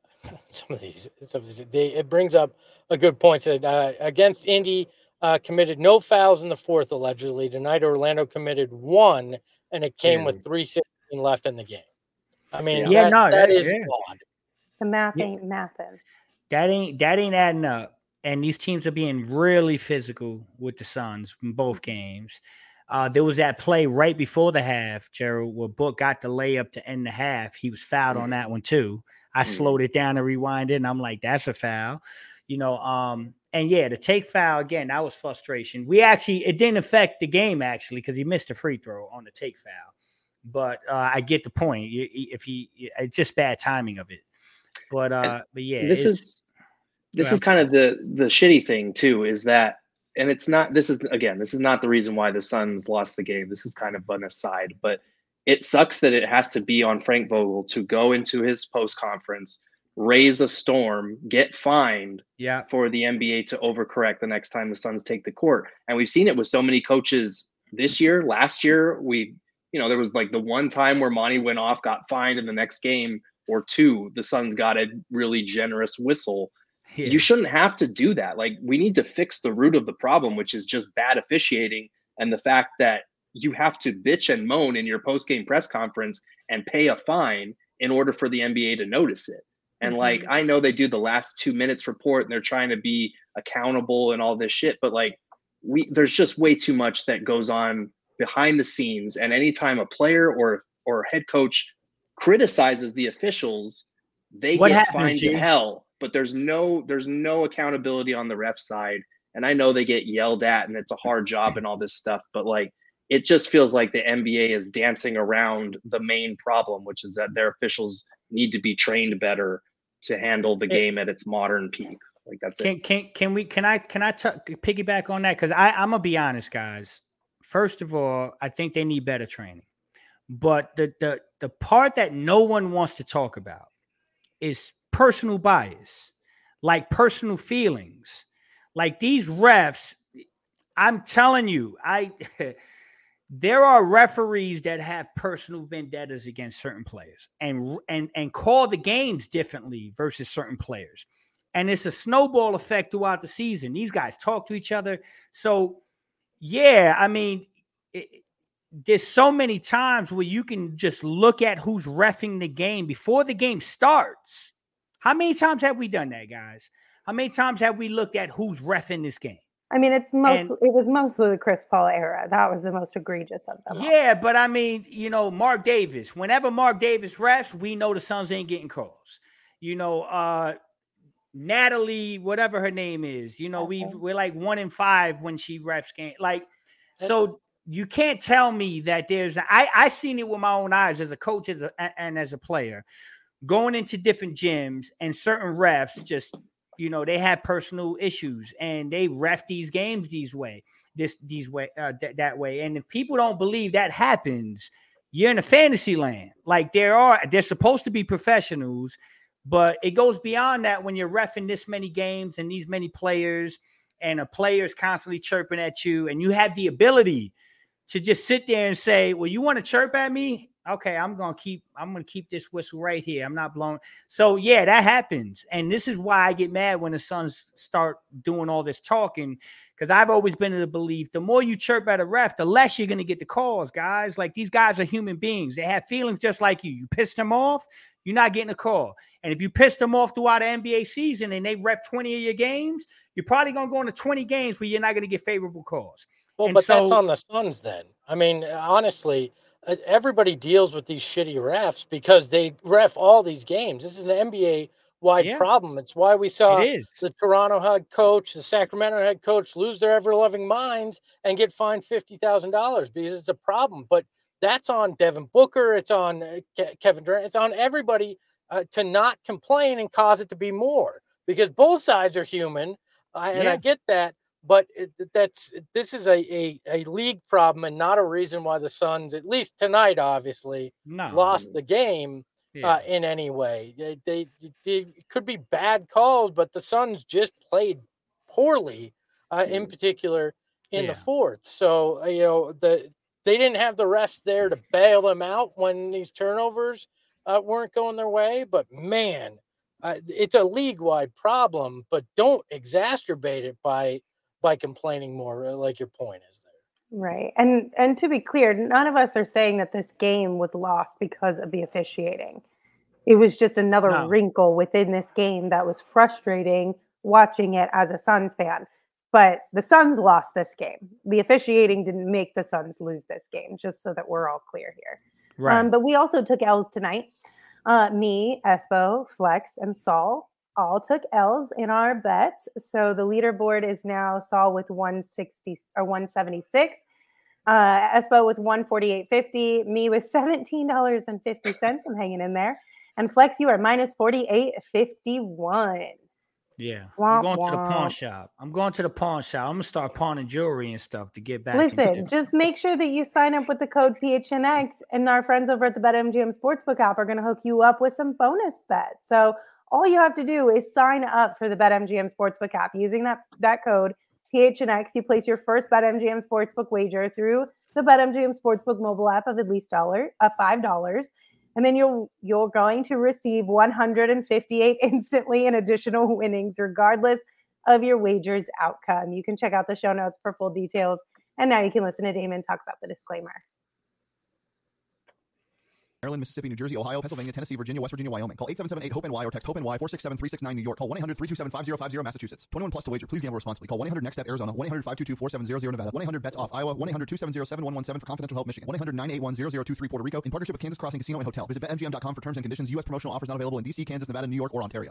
some of these. Some of these they, it brings up a good point. That uh, against Indy uh, committed no fouls in the fourth allegedly. Tonight, Orlando committed one, and it came yeah. with three sixteen left in the game. I mean, yeah, that, no, that, that is yeah. odd. The math yeah. ain't mathin'. That ain't that ain't adding up. And these teams are being really physical with the Suns in both games. Uh, there was that play right before the half, Gerald, where Book got the layup to end the half. He was fouled mm. on that one too. I mm. slowed it down and rewind it, and I'm like, that's a foul. You know, um, and yeah, the take foul again, that was frustration. We actually, it didn't affect the game actually because he missed a free throw on the take foul. But uh, I get the point. If he, it's just bad timing of it. But uh, but yeah, this is this is kind of the the shitty thing too, is that, and it's not. This is again, this is not the reason why the Suns lost the game. This is kind of an aside, but it sucks that it has to be on Frank Vogel to go into his post conference, raise a storm, get fined, yeah. for the N B A to overcorrect the next time the Suns take the court. And we've seen it with so many coaches this year. Last year, we, you know, there was like the one time where Monty went off, got fined in the next game or two, the Suns got a really generous whistle. Yeah. You shouldn't have to do that. Like, we need to fix the root of the problem, which is just bad officiating and the fact that you have to bitch and moan in your post-game press conference and pay a fine in order for the N B A to notice it. And mm-hmm. like, I know they do the last two minutes report and they're trying to be accountable and all this shit, but like, we, there's just way too much that goes on behind the scenes. And anytime a player or, or head coach criticizes the officials, they what get happens, fined G? to hell, but there's no, there's no accountability on the ref side. And I know they get yelled at and it's a hard job and all this stuff, but like, it just feels like the N B A is dancing around the main problem, which is that their officials need to be trained better to handle the game at its modern peak. Like that's can, it. Can can we can I can I t- piggyback on that? Because I I'm gonna be honest, guys. First of all, I think they need better training. But the the the part that no one wants to talk about is personal bias, like personal feelings. Like these refs, I'm telling you, I there are referees that have personal vendettas against certain players and and and call the games differently versus certain players. And it's a snowball effect throughout the season. These guys talk to each other. So, yeah, I mean, it, there's so many times where you can just look at who's reffing the game before the game starts. How many times have we done that, guys? How many times have we looked at who's reffing this game? I mean, it's most. And, it was mostly the Chris Paul era. That was the most egregious of them. Yeah, all. But I mean, you know, Mark Davis. Whenever Mark Davis refs, we know the Suns ain't getting calls. You know, uh, Natalie, whatever her name is. You know, okay. we we're like one in five when she refs game. Like, so you can't tell me that there's. I I seen it with my own eyes as a coach as a, and as a player, going into different gyms and certain refs just. You know, they have personal issues and they ref these games these way, this, these way, uh, th- that way. And if people don't believe that happens, you're in a fantasy land. Like there are, they're supposed to be professionals, but it goes beyond that when you're reffing this many games and these many players and a player's constantly chirping at you and you have the ability to just sit there and say, well, you want to chirp at me? Okay, I'm going to keep, I'm going to keep this whistle right here. I'm not blowing. So yeah, that happens. And this is why I get mad when the Suns start doing all this talking. Cause I've always been of the belief, the more you chirp at a ref, the less you're going to get the calls, guys. Like these guys are human beings. They have feelings just like you. You pissed them off, you're not getting a call. And if you pissed them off throughout the N B A season and they ref twenty of your games, you're probably going to go into twenty games where you're not going to get favorable calls. Well, and but so, that's on the Suns then. I mean, honestly, everybody deals with these shitty refs because they ref all these games. This is an N B A-wide yeah. problem. It's why we saw the Toronto head coach, the Sacramento head coach lose their ever-loving minds and get fined fifty thousand dollars because it's a problem. But that's on Devin Booker. It's on Ke- Kevin Durant. It's on everybody uh, to not complain and cause it to be more because both sides are human, uh, and yeah. I get that. But it, that's this is a, a, a league problem and not a reason why the Suns, at least tonight, obviously, no. lost the game yeah. uh, in any way. They, they, they could be bad calls, but the Suns just played poorly, uh, in particular in yeah. the fourth. So, you know, the they didn't have the refs there to bail them out when these turnovers uh, weren't going their way. But, man, uh, it's a league-wide problem, but don't exacerbate it by – by complaining more, like your point is there. Right. And and to be clear, none of us are saying that this game was lost because of the officiating. It was just another no. wrinkle within this game that was frustrating watching it as a Suns fan. But the Suns lost this game. The officiating didn't make the Suns lose this game, just so that we're all clear here. Right. Um, but we also took L's tonight. Uh, me, Espo, Flex, and Saul all took L's in our bets. So the leaderboard is now Saul with one sixty or one seventy-six, uh, Espo with one forty-eight fifty, me with seventeen dollars and fifty cents. I'm hanging in there. And Flex, you are minus forty-eight fifty-one. Yeah. I'm going to the pawn shop. I'm going to the pawn shop. I'm going to start pawning jewelry and stuff to get back. Listen, just make sure that you sign up with the code P H N X, and our friends over at the BetMGM Sportsbook app are going to hook you up with some bonus bets. So all you have to do is sign up for the BetMGM Sportsbook app using that, that code P H N X. You place your first BetMGM Sportsbook wager through the BetMGM Sportsbook mobile app of at least dollar, uh, five dollars. And then you're, you're going to receive one hundred fifty-eight instantly in additional winnings, regardless of your wager's outcome. You can check out the show notes for full details. And now you can listen to Damon talk about the disclaimer. Maryland, Mississippi, New Jersey, Ohio, Pennsylvania, Tennessee, Virginia, West Virginia, Wyoming. Call eight seven seven eight hope N Y or text HOPE-NY four six seven three six nine New York. Call one eight hundred three two seven five zero five zero Massachusetts. twenty-one plus to wager. Please gamble responsibly. Call one eight hundred next step Arizona. one eight hundred five two two four seven zero zero Nevada. one eight hundred bets off Iowa. one eight hundred two seven zero seven one one seven for confidential help Michigan. one eight hundred nine eight one zero zero two three Puerto Rico in partnership with Kansas Crossing Casino and Hotel. Visit bet M G M dot com for terms and conditions. U S promotional offers not available in D C, Kansas, Nevada, New York, or Ontario.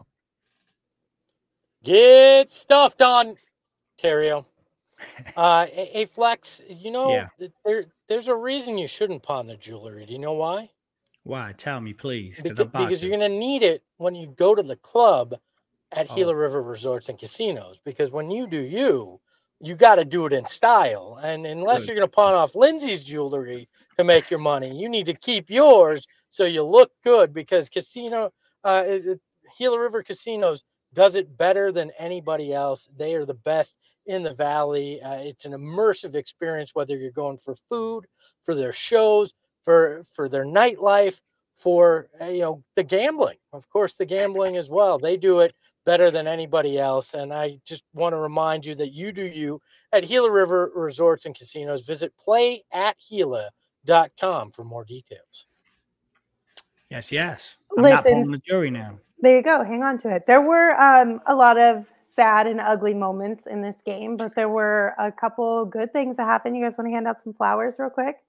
Get stuffed on Ontario. Uh, a, a Flex, you know, yeah. there there's a reason you shouldn't pawn the jewelry. Do you know why? Why? Tell me, please. Because, because you're going to need it when you go to the club at oh. Gila River Resorts and Casinos. Because when you do you, you got to do it in style. And unless Good. You're going to pawn off Lindsay's jewelry to make your money, you need to keep yours so you look good. Because casino, uh, Gila River Casinos does it better than anybody else. They are the best in the Valley. Uh, it's an immersive experience, whether you're going for food, for their shows, for, for their nightlife, for, you know, the gambling. Of course, the gambling as well. They do it better than anybody else. And I just want to remind you that you do you at Gila River Resorts and Casinos. Visit play at Gila dot com for more details. Yes, yes. I'm Listen, not pulling the jury now. There you go. Hang on to it. There were um, a lot of sad and ugly moments in this game, but there were a couple good things that happened. You guys want to hand out some flowers real quick?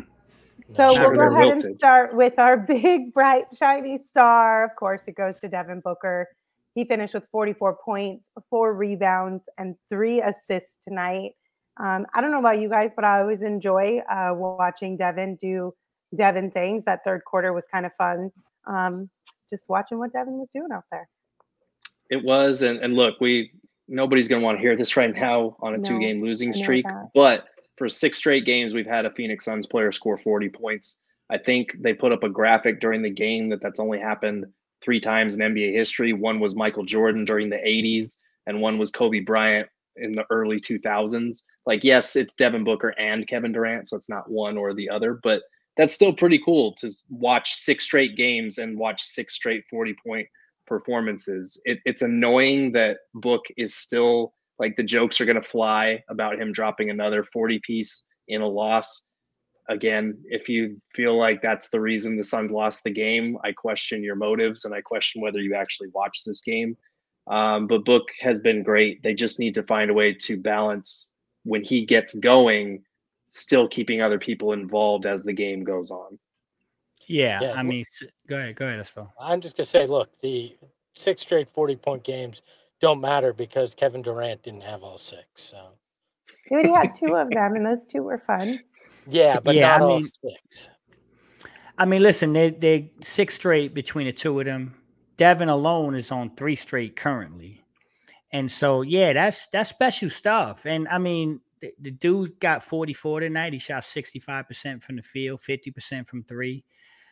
So Sure, we'll go they're ahead wilted. and start with our big, bright, shiny star. Of course, it goes to Devin Booker. He finished with forty-four points, four rebounds, and three assists tonight. Um, I don't know about you guys, but I always enjoy uh, watching Devin do Devin things. That third quarter was kind of fun. Um, just watching what Devin was doing out there. It was, and, and look, we nobody's going to want to hear this right now on a No, two-game losing I know streak, that. but for six straight games, we've had a Phoenix Suns player score forty points. I think they put up a graphic during the game that that's only happened three times in N B A history. One was Michael Jordan during the eighties, and one was Kobe Bryant in the early two thousands. Like, yes, it's Devin Booker and Kevin Durant, so it's not one or the other, but that's still pretty cool to watch six straight games and watch six straight forty-point performances. It, it's annoying that Book is still, like, the jokes are going to fly about him dropping another forty piece in a loss. Again, if you feel like that's the reason the Suns lost the game, I question your motives and I question whether you actually watched this game. Um, but Book has been great. They just need to find a way to balance when he gets going, still keeping other people involved as the game goes on. Yeah, Yeah. I mean, s- go ahead, go ahead, Espo. I'm just going to say, look, the six straight forty-point games don't matter because Kevin Durant didn't have all six. So He already had two of them, and those two were fun. yeah, but Yeah, not I all mean- six. I mean, listen, they they six straight between the two of them. Devin alone is on three straight currently, and so yeah, that's that's special stuff. And I mean, the, the dude got forty-four tonight. He shot sixty-five percent from the field, fifty percent from three.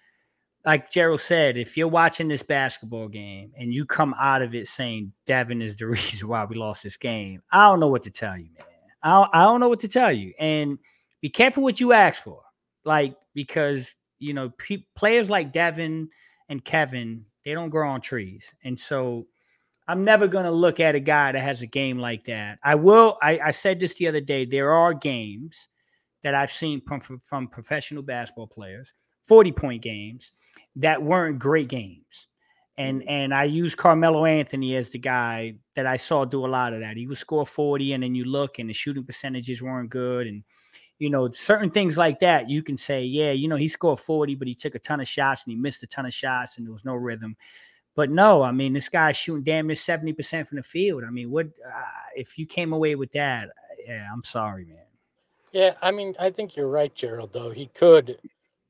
Like Gerald said, if you're watching this basketball game and you come out of it saying Devin is the reason why we lost this game, I don't know what to tell you, man. I don't, I don't know what to tell you. And be careful what you ask for, like, because you know pe- players like Devin and Kevin, they don't grow on trees, and so I'm never gonna look at a guy that has a game like that. I will. I, I said this the other day. There are games that I've seen from from professional basketball players, forty point games that weren't great games. And and I use Carmelo Anthony as the guy that I saw do a lot of that. He would score forty, and then you look, and the shooting percentages weren't good, and you know certain things like that. You can say, yeah, you know, he scored forty, but he took a ton of shots, and he missed a ton of shots, and there was no rhythm. But no, I mean, this guy's shooting damn near seventy percent from the field. I mean, what uh, if you came away with that? Yeah, I'm sorry, man. Yeah, I mean, I think you're right, Gerald, though. He could.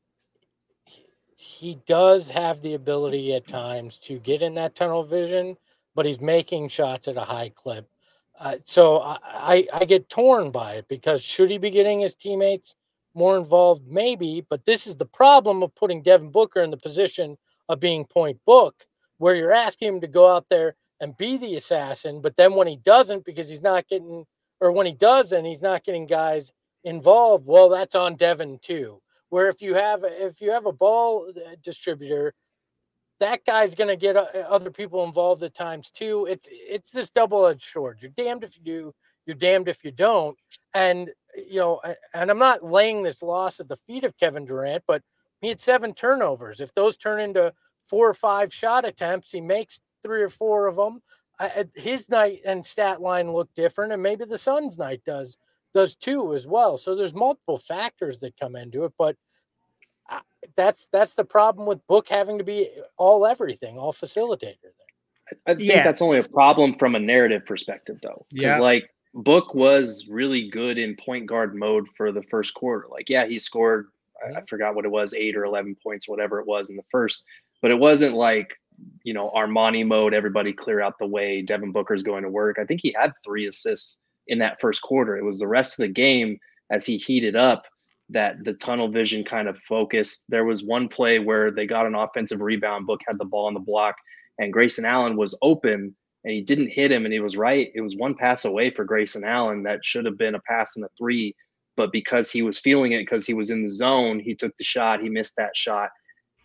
He does have the ability at times to get in that tunnel vision, but he's making shots at a high clip. Uh, so I, I, I get torn by it because should he be getting his teammates more involved? Maybe, but this is the problem of putting Devin Booker in the position of being point Book, where you're asking him to go out there and be the assassin, but then when he doesn't, because he's not getting, or when he does and he's not getting guys involved, well, that's on Devin too. Where if you have if you have a ball distributor, that guy's going to get other people involved at times too. It's it's this double-edged sword. You're damned if you do, you're damned if you don't. And you know, and I'm not laying this loss at the feet of Kevin Durant, but he had seven turnovers. If those turn into four or five shot attempts, he makes three or four of them. His night and stat line look different, and maybe the Suns' night does. does too as well. So there's multiple factors that come into it, but that's that's the problem with Book having to be all everything, all facilitator there. I think Yeah. that's only a problem from a narrative perspective, though. Because, Yeah. like, Book was really good in point guard mode for the first quarter. Like, yeah, he scored, I, I forgot what it was, eight or eleven points, whatever it was in the first. But it wasn't like, you know, Armani mode, everybody clear out the way, Devin Booker's going to work. I think he had three assists in that first quarter. It was the rest of the game as he heated up that the tunnel vision kind of focused. There was one play where they got an offensive rebound. Book had the ball on the block, and Grayson Allen was open, and he didn't hit him, and he was right. It was one pass away for Grayson Allen that should have been a pass and a three, but because he was feeling it, because he was in the zone, he took the shot. He missed that shot.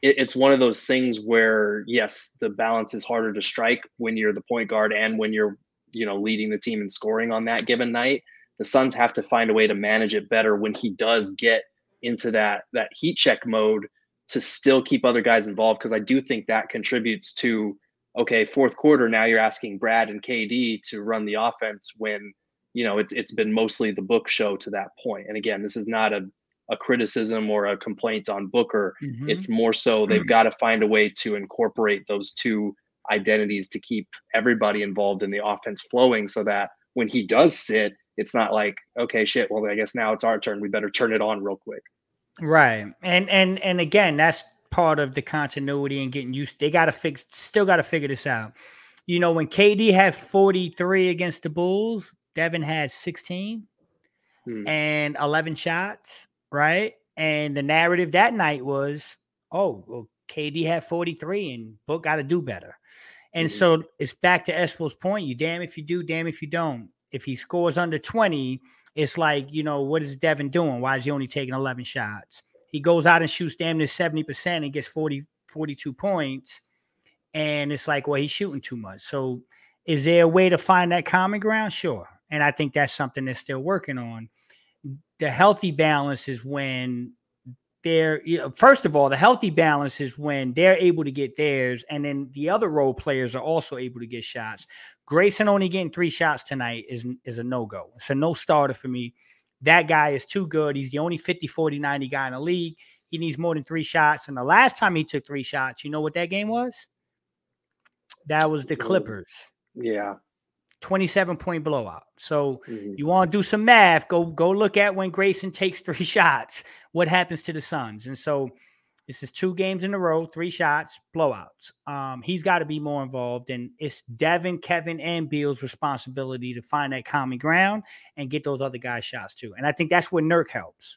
it, it's one of those things where, yes, the balance is harder to strike when you're the point guard and when you're, you know, leading the team in scoring on that given night. The Suns have to find a way to manage it better when he does get into that that heat check mode to still keep other guys involved, because I do think that contributes to, okay, fourth quarter, now you're asking Brad and K D to run the offense when, you know, it's it's been mostly the Book show to that point. And again, this is not a, a criticism or a complaint on Booker. Mm-hmm. It's more so they've got to find a way to incorporate those two identities to keep everybody involved in the offense flowing, so that when he does sit, it's not like, okay, shit, well, I guess now it's our turn. We better turn it on real quick. Right. And and and again, that's part of the continuity and getting used. They got to fix, still got to figure this out. You know, when K D had forty-three against the Bulls, Devin had sixteen hmm. and eleven shots, right? And the narrative that night was, oh, well, K D had forty-three and Book got to do better. And mm-hmm. so it's back to Espo's point. You damn if you do, damn if you don't. If he scores under twenty, it's like, you know, what is Devin doing? Why is he only taking eleven shots? He goes out and shoots damn near seventy percent and gets forty, forty-two points. And it's like, well, he's shooting too much. So is there a way to find that common ground? Sure. And I think that's something they're still working on. The healthy balance is when they're, you know, first of all, the healthy balance is when they're able to get theirs. And then the other role players are also able to get shots. Grayson only getting three shots tonight is, is a no-go. It's a no starter for me. That guy is too good. He's the only fifty, forty, ninety guy in the league. He needs more than three shots. And the last time he took three shots, you know what that game was? That was the Clippers. Yeah. twenty-seven point blowout. So mm-hmm. you want to do some math, go, go look at when Grayson takes three shots, what happens to the Suns. And so this is two games in a row, three shots, blowouts. Um, he's got to be more involved, and it's Devin, Kevin, and Beal's responsibility to find that common ground and get those other guys shots too. And I think that's where Nurk helps.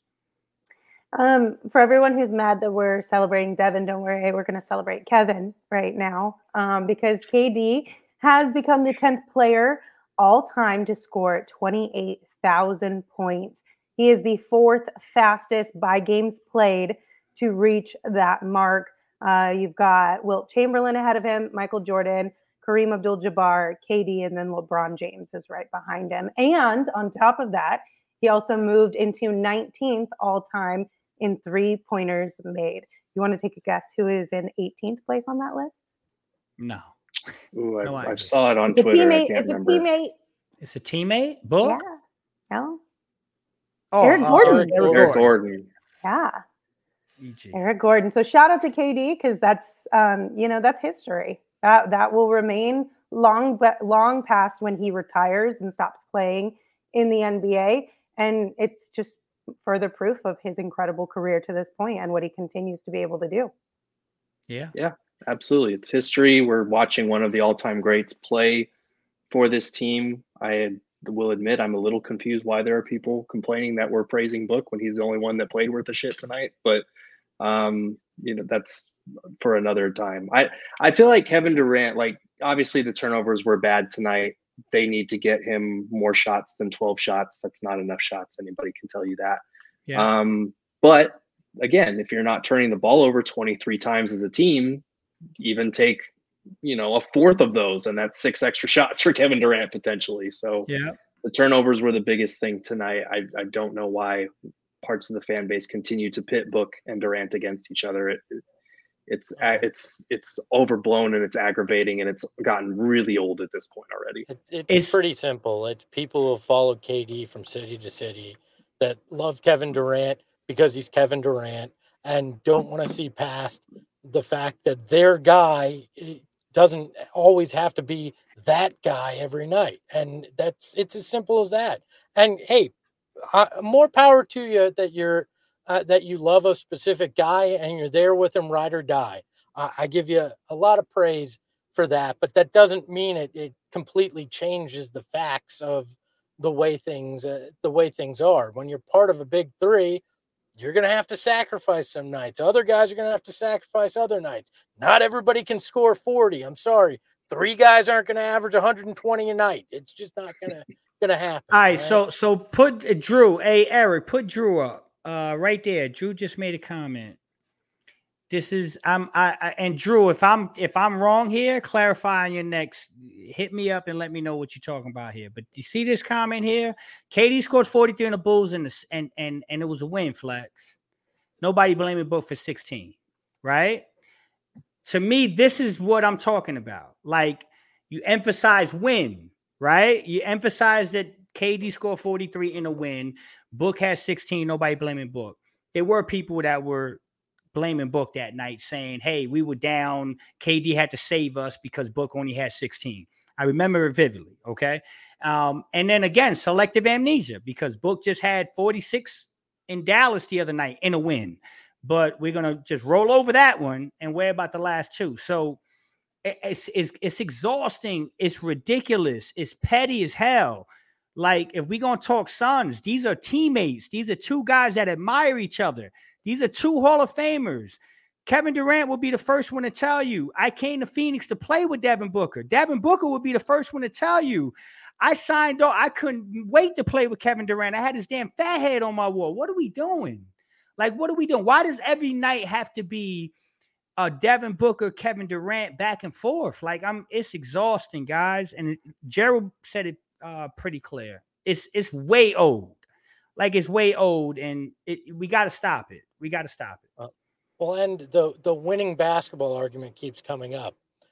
Um, for everyone who's mad that we're celebrating Devin, don't worry, we're going to celebrate Kevin right now um, because K D has become the tenth player all time to score twenty-eight thousand points. He is the fourth fastest by games played to reach that mark. Uh, you've got Wilt Chamberlain ahead of him, Michael Jordan, Kareem Abdul-Jabbar, K D, and then LeBron James is right behind him. And on top of that, he also moved into nineteenth all-time in three-pointers made. You want to take a guess who is in eighteenth place on that list? No. Ooh, I, no I saw it on it's Twitter. A teammate, I can't it's remember. a teammate. It's a teammate? Book? Yeah. No. Oh, Eric uh, Gordon. Eric, Eric Eric Gordon. Gordon. Yeah. E G. Eric Gordon. So shout out to K D because that's, um, you know, that's history. That that will remain long, but long past when he retires and stops playing in the N B A. And it's just further proof of his incredible career to this point and what he continues to be able to do. Yeah. Yeah, absolutely. It's history. We're watching one of the all-time greats play for this team. I will admit I'm a little confused why there are people complaining that we're praising Book when he's the only one that played worth a shit tonight. But, um, you know, that's for another time. I, I feel like Kevin Durant, like, obviously the turnovers were bad tonight. They need to get him more shots than twelve shots. That's not enough shots. Anybody can tell you that. Yeah. Um, but again, if you're not turning the ball over twenty-three times as a team, even take, you know, a fourth of those, and that's six extra shots for Kevin Durant potentially. So yeah, the turnovers were the biggest thing tonight. I, I don't know why parts of the fan base continue to pit Book and Durant against each other. It, it, It's it's it's overblown and it's aggravating and it's gotten really old at this point already. It, it's, It's- pretty simple. It's people who have followed K D from city to city that love Kevin Durant because he's Kevin Durant and don't want to see past the fact that their guy doesn't always have to be that guy every night. And that's it's as simple as that. And hey, uh, more power to you that you're Uh, that you love a specific guy and you're there with him, ride or die. I, I give you a lot of praise for that, but that doesn't mean it, it completely changes the facts of the way things uh, the way things are. When you're part of a big three, you're going to have to sacrifice some nights. Other guys are going to have to sacrifice other nights. Not everybody can score forty. I'm sorry. Three guys aren't going to average one hundred twenty a night. It's just not going to going to happen. All right, right, so so put uh, Drew. Hey, Eric, put Drew up. Uh, right there. Drew just made a comment. This is I'm I, I and Drew. If I'm if I'm wrong here, clarify in your next. Hit me up and let me know what you're talking about here. But you see this comment here? K D scored forty-three on the Bulls and the, and and and it was a win. Flex. Nobody blaming Book for sixteen, right? To me, this is what I'm talking about. Like you emphasize win, right? You emphasize that K D scored forty-three in a win. Book has sixteen. Nobody blaming Book. There were people that were blaming Book that night, saying, "Hey, we were down. K D had to save us because Book only had sixteen." I remember it vividly. Okay, um, and then again, selective amnesia because Book just had forty-six in Dallas the other night in a win, but we're gonna just roll over that one and worry about the last two. So it's it's, it's exhausting. It's ridiculous. It's petty as hell. Like if we're gonna talk Suns, these are teammates. These are two guys that admire each other. These are two Hall of Famers. Kevin Durant will be the first one to tell you, I came to Phoenix to play with Devin Booker. Devin Booker would be the first one to tell you, I signed on. I couldn't wait to play with Kevin Durant. I had his damn fat head on my wall. What are we doing? Like, what are we doing? Why does every night have to be uh, Devin Booker, Kevin Durant back and forth? Like, I'm. It's exhausting, guys. And it, Gerald said it uh, pretty clear. It's it's way old. Like it's way old, and it, we got to stop it. We got to stop it. Uh, well, and the the winning basketball argument keeps coming up.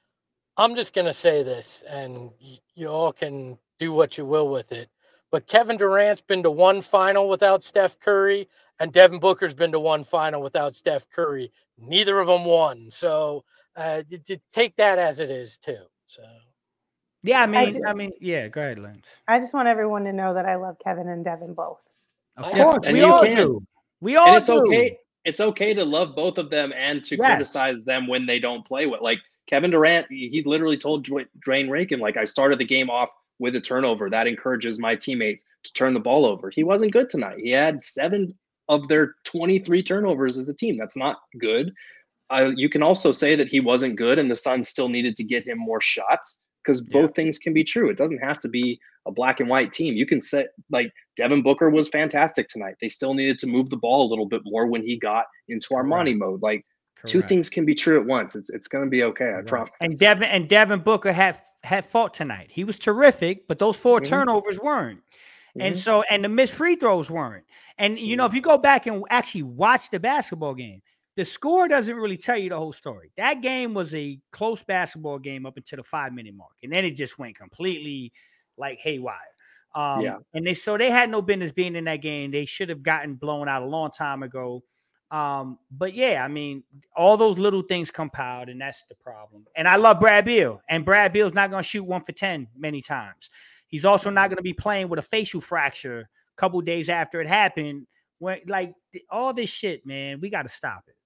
I'm just going to say this, and y- you all can do what you will with it. But Kevin Durant's been to one final without Steph Curry, and Devin Booker's been to one final without Steph Curry. Neither of them won. So uh, you, you take that as it is, too. So, yeah, I mean, I, I mean, yeah, go ahead, Lance. I just want everyone to know that I love Kevin and Devin both. Of I- course, and we you all can. do. We all And it's do. okay. It's okay to love both of them and to Yes. criticize them when they don't play well. Like Kevin Durant, he literally told Dwayne Rankin, like, I started the game off with a turnover. That encourages my teammates to turn the ball over. He wasn't good tonight. He had seven of their twenty-three turnovers as a team. That's not good. Uh, you can also say that he wasn't good and the Suns still needed to get him more shots because both Yeah. things can be true. It doesn't have to be a black and white team. You can say, like, Devin Booker was fantastic tonight. They still needed to move the ball a little bit more when he got into Armani Correct. mode. Like, two Correct. things can be true at once. It's it's going to be okay. I Right. promise. And Devin and Devin Booker had had fought tonight. He was terrific, but those four Mhm. turnovers weren't. And Mhm. so, and the missed free throws weren't. And you know, if you go back and actually watch the basketball game, the score doesn't really tell you the whole story. That game was a close basketball game up until the five minute mark, and then it just went completely like haywire. Um, Yeah. And they so they had no business being in that game. They should have gotten blown out a long time ago. Um, but yeah, I mean, all those little things compiled, and that's the problem. And I love Brad Beal, and Brad Beal's not going to shoot one for ten many times. He's also not going to be playing with a facial fracture a couple days after it happened. When like all this shit, man, we got to stop it.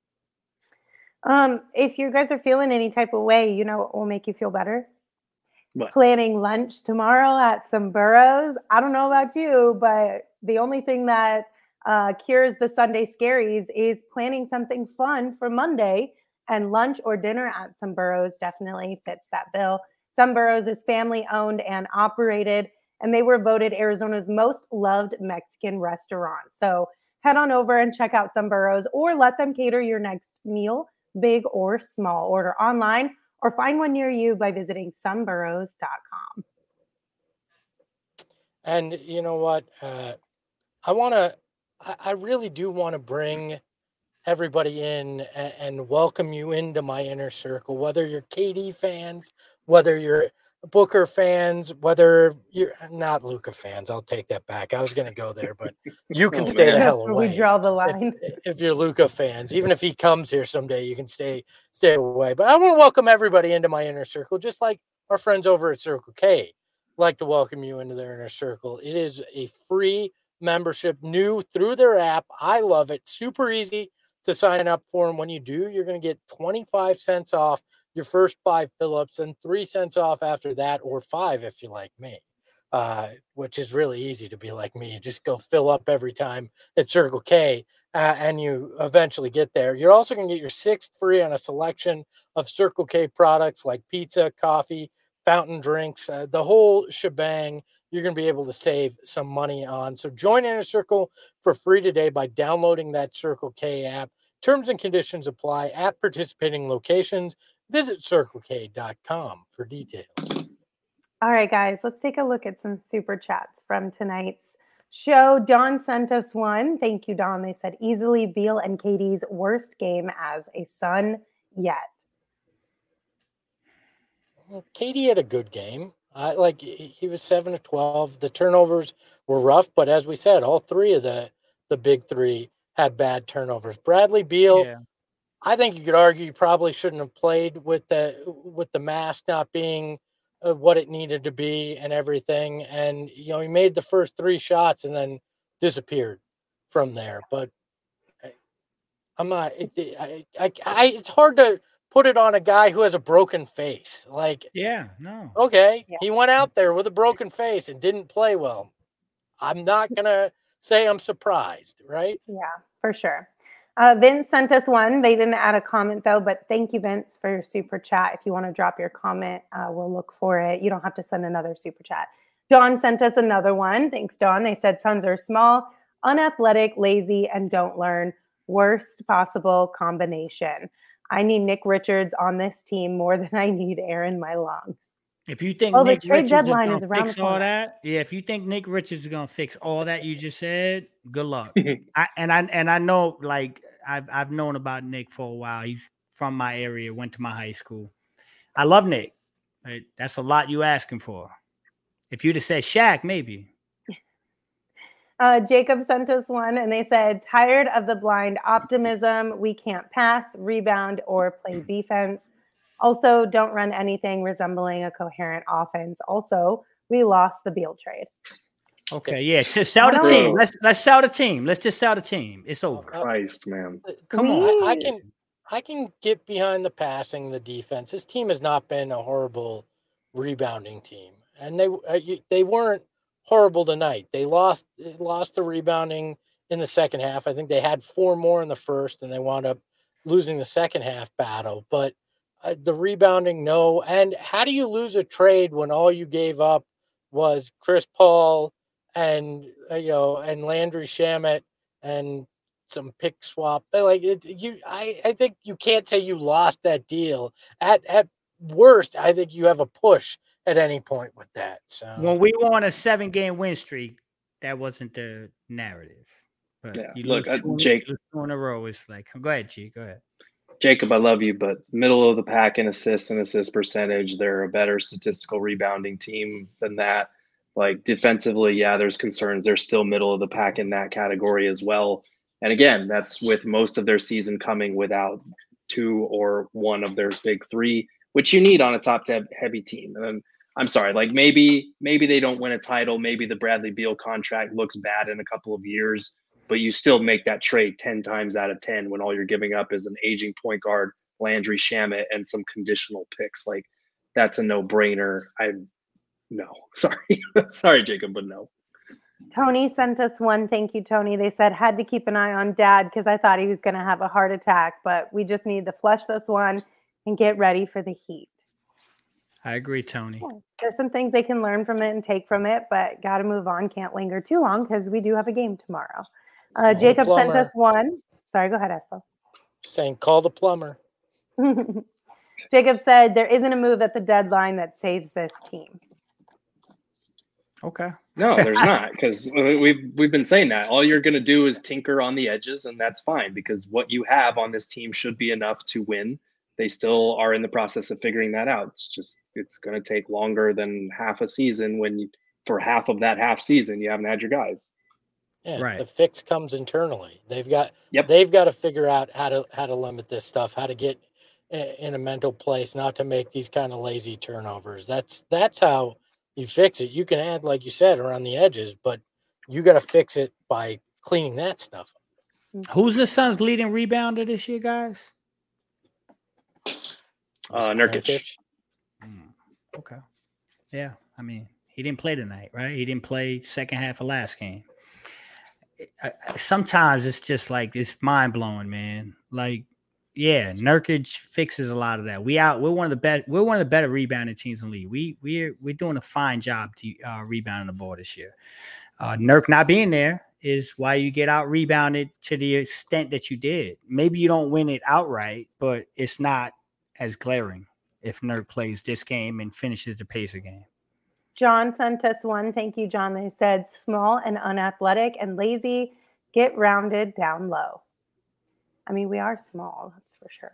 Um, if you guys are feeling any type of way, you know what will make you feel better? What? Planning lunch tomorrow at some Burrows. I don't know about you, but the only thing that uh, cures the Sunday scaries is planning something fun for Monday, and lunch or dinner at some Burrows definitely fits that bill. Some Burrows is family owned and operated, and they were voted Arizona's most loved Mexican restaurant. So head on over and check out some Burrows, or let them cater your next meal, big or small. Order online or find one near you by visiting some burrows dot com. and you know what? Uh, I want to, I, I really do want to bring everybody in and, and welcome you into my inner circle, whether you're K D fans, whether you're Booker fans, whether you're not Luka fans. I'll take that back. I was going to go there, but you can Oh, stay man. the hell That's where away. we draw the line. If, if you're Luka fans, even if he comes here someday, you can stay stay away. But I want to welcome everybody into my inner circle, just like our friends over at Circle K like to welcome you into their inner circle. It is a free membership, new through their app. I love it. Super easy to sign up for. And when you do, you're going to get twenty-five cents off your first five fill-ups and three cents off after that, or five if you like me, uh, which is really easy to be like me. You just go fill up every time at Circle K, uh, and you eventually get there. You're also going to get your sixth free on a selection of Circle K products like pizza, coffee, fountain drinks, uh, the whole shebang. You're going to be able to save some money on. So join Inner Circle for free today by downloading that Circle K app. Terms and conditions apply at participating locations. Visit circle k dot com for details. All right, guys, let's take a look at some super chats from tonight's show. Don sent us one. Thank you, Don. They said, easily Beal and K D's worst game as a Sun yet. Well, K D had a good game. I like he was seven of twelve. The turnovers were rough, but as we said, all three of the the big three had bad turnovers. Bradley Beal, yeah. I think you could argue he probably shouldn't have played with the with the mask not being uh, what it needed to be and everything. And you know, he made the first three shots and then disappeared from there. But I, I'm not. It, I, I, I, it's hard to put it on a guy who has a broken face. Like, yeah, no. Okay, yeah. He went out there with a broken face and didn't play well. I'm not going to say I'm surprised, right? Yeah, for sure. Uh, Vince sent us one. They didn't add a comment, though, but thank you, Vince, for your super chat. If you want to drop your comment, uh, we'll look for it. You don't have to send another super chat. Dawn sent us another one. Thanks, Dawn. They said Suns are small, unathletic, lazy, and don't learn. Worst possible combination. I need Nick Richards on this team more than I need air in my lungs. If you think well, Nick the trade Richards deadline is is going around to fix all that, yeah. If you think Nick Richards is going to fix all that you just said, good luck. I, and I and I know, like I've I've known about Nick for a while. He's from my area, went to my high school. I love Nick. But that's a lot you asking for. If you'd have said Shaq, maybe. Uh, Jacob sent us one, and they said, tired of the blind optimism. We can't pass, rebound, or play defense. Also, don't run anything resembling a coherent offense. Also, we lost the Beal trade. Okay, yeah. To sell the team. Let's let's sell the team. Let's just sell the team. It's over. Christ, man. Come we, on. I, I can I can get behind the passing, the defense. This team has not been a horrible rebounding team, and they uh, they weren't horrible tonight. They lost lost the rebounding in the second half. I think they had four more in the first, and they wound up losing the second half battle. But uh, the rebounding, no. And how do you lose a trade when all you gave up was Chris Paul and uh, you know and Landry Shamet and some pick swap? Like it, you, I, I think you can't say you lost that deal. At at worst, I think you have a push at any point with that. So when we were on a seven game win streak, that wasn't the narrative. But yeah. you Look, lose uh, two, Jake, two in a row. It's like, go ahead, G. Go ahead. Jacob, I love you, but middle of the pack in assists and assist percentage, they're a better statistical rebounding team than that. Like defensively, yeah, there's concerns. They're still middle of the pack in that category as well. And again, that's with most of their season coming without two or one of their big three, which you need on a top heavy team. And I'm sorry, like maybe maybe they don't win a title. Maybe the Bradley Beal contract looks bad in a couple of years, but you still make that trade ten times out of ten when all you're giving up is an aging point guard, Landry Shamet, and some conditional picks. Like that's a no-brainer. I no, sorry, sorry, Jacob, but no. Tony sent us one. Thank you, Tony. They said, had to keep an eye on Dad because I thought he was going to have a heart attack, but we just need to flush this one and get ready for the Heat. I agree, Tony. Yeah. There's some things they can learn from it and take from it, but got to move on. Can't linger too long because we do have a game tomorrow. Uh, Jacob sent us one. Sorry, go ahead, Espo. Saying call the plumber. Jacob said there isn't a move at the deadline that saves this team. Okay. No, there's not, because we've we've been saying that. All you're going to do is tinker on the edges, and that's fine because what you have on this team should be enough to win. They still are in the process of figuring that out. It's just it's going to take longer than half a season when you, for half of that half season you haven't had your guys. Yeah, right. The fix comes internally. They've got yep. they've got to figure out how to how to limit this stuff, how to get in a mental place, not to make these kind of lazy turnovers. That's that's how you fix it. You can add, like you said, around the edges, but you got to fix it by cleaning that stuff up. Who's the Suns' leading rebounder this year, guys? Uh, Nurkic. Mm, okay. Yeah, I mean, he didn't play tonight, right? He didn't play second half of last game. I, I, sometimes it's just like it's mind blowing, man. Like, yeah, Nurkic fixes a lot of that. We out. We're one of the best. We're one of the better rebounding teams in the league. We we're we're doing a fine job to uh, rebounding the ball this year. Uh, Nurk not being there is why you get out rebounded to the extent that you did. Maybe you don't win it outright, but it's not as glaring if Nurk plays this game and finishes the Pacer game. John sent us one. Thank you, John. They said small and unathletic and lazy. Get rounded down low. I mean, we are small, that's for sure.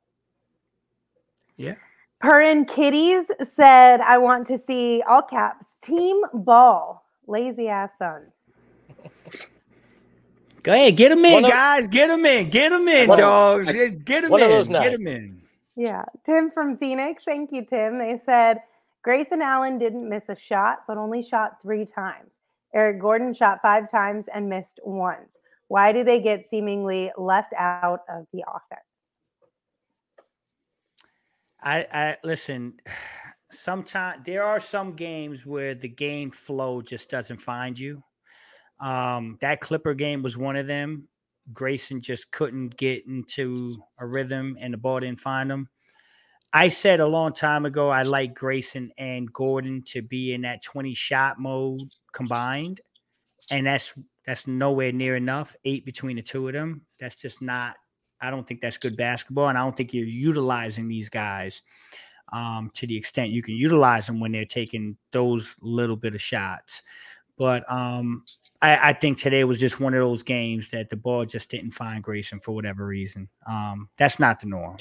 Yeah. Purrin Kitties said, I want to see, all caps, team ball. Lazy ass Suns. Go ahead, get them in, One of- guys. Get them in. Get them in, One of- dogs. Get them one of in. those Get nine. them in. Yeah. Tim from Phoenix. Thank you, Tim. They said, Grayson Allen didn't miss a shot, but only shot three times. Eric Gordon shot five times and missed once. Why do they get seemingly left out of the offense? I, I listen. Sometimes there are some games where the game flow just doesn't find you. Um, that Clipper game was one of them. Grayson just couldn't get into a rhythm, and the ball didn't find him. I said a long time ago I like Grayson and Gordon to be in that twenty shot mode combined, and that's that's nowhere near enough. Eight between the two of them. That's just not. I don't think that's good basketball, and I don't think you're utilizing these guys um, to the extent you can utilize them when they're taking those little bit of shots. But um, I, I think today was just one of those games that the ball just didn't find Grayson for whatever reason. Um, that's not the norm.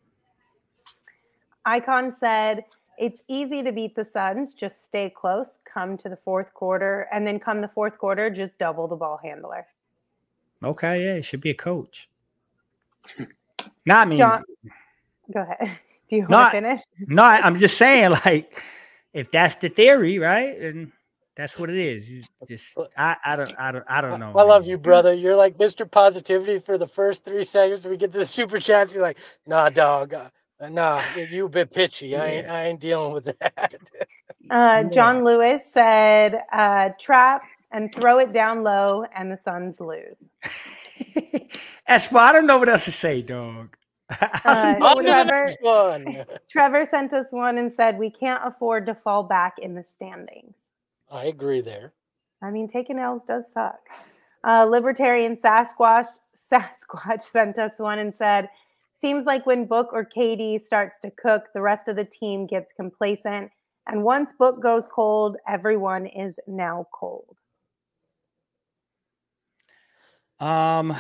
Icon said, it's easy to beat the Suns. Just stay close, come to the fourth quarter, and then come the fourth quarter, just double the ball handler. Okay, yeah, it should be a coach. No, I mean, John, go ahead. Do you No, want to finish? no, I- I'm just saying, like, if that's the theory, right, and that's what it is. You just, I, I don't, I don't, I don't know. I love man. you, brother. You're like Mister Positivity for the first three seconds. We get to the super chats. You're like, nah, dog. Uh, nah, you, you a bit pitchy. I ain't, I ain't dealing with that. Uh, John Lewis said, uh, trap and throw it down low, and the Suns lose. That's why I don't know what else to say, dog. Uh, On to the Trevor, next one. Trevor sent us one and said, we can't afford to fall back in the standings. I agree there. I mean, taking L's does suck. Uh, Libertarian Sasquatch Sasquatch sent us one and said, seems like when Book or K D starts to cook, the rest of the team gets complacent. And once Book goes cold, everyone is now cold. Um,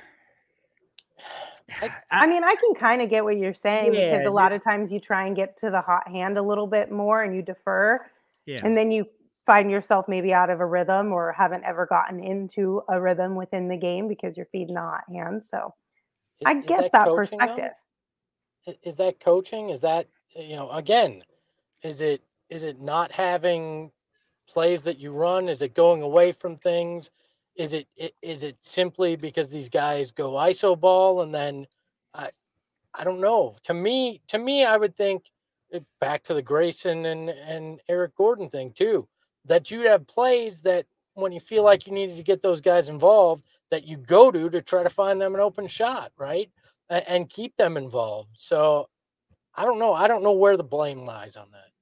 I, I mean, I can kind of get what you're saying Yeah, because a lot of times you try and get to the hot hand a little bit more and you defer. yeah. And then you find yourself maybe out of a rhythm or haven't ever gotten into a rhythm within the game because you're feeding the hot hand. So Is- I is get that, coaching, though? perspective. I- Is that coaching? Is that, you know, again, is it is it not having plays that you run? Is it going away from things? Is it i- is it simply because these guys go I S O ball and then I I don't know. To me, to me, I would think uh, back to the Grayson and and Eric Gordon thing too, that you have plays that when you feel like you needed to get those guys involved, that you go to to try to find them an open shot, right? A- And keep them involved. So I don't know. I don't know where the blame lies on that.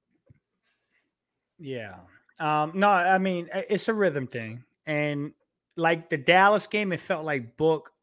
Yeah. Um, no, I mean, i- it's a rhythm thing. And like the Dallas game, it felt like Book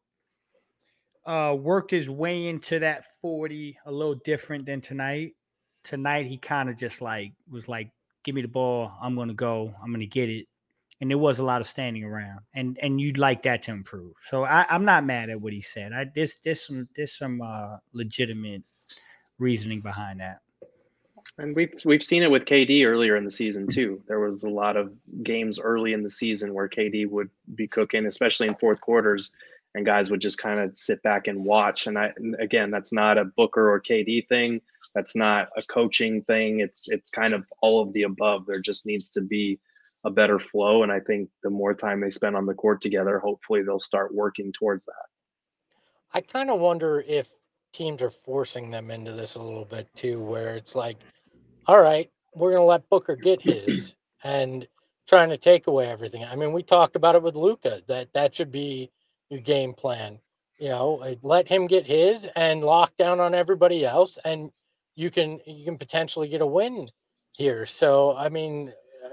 uh, worked his way into that forty a little different than tonight. Tonight, he kind of just like was like, give me the ball. I'm going to go. I'm going to get it. And there was a lot of standing around. And and you'd like that to improve. So I, I'm not mad at what he said. I There's, there's some, there's some uh, legitimate reasoning behind that. And we've we've seen it with K D earlier in the season too. There was a lot of games early in the season where K D would be cooking, especially in fourth quarters, and guys would just kind of sit back and watch. And I and again, that's not a Booker or K D thing. That's not a coaching thing. It's it's kind of all of the above. There just needs to be a better flow. And I think the more time they spend on the court together, hopefully they'll start working towards that. I kind of wonder if teams are forcing them into this a little bit too, where it's like, all right, we're going to let Booker get his and trying to take away everything. I mean, we talked about it with Luka, that that should be your game plan. You know, let him get his and lock down on everybody else, and you can you can potentially get a win here. So, I mean,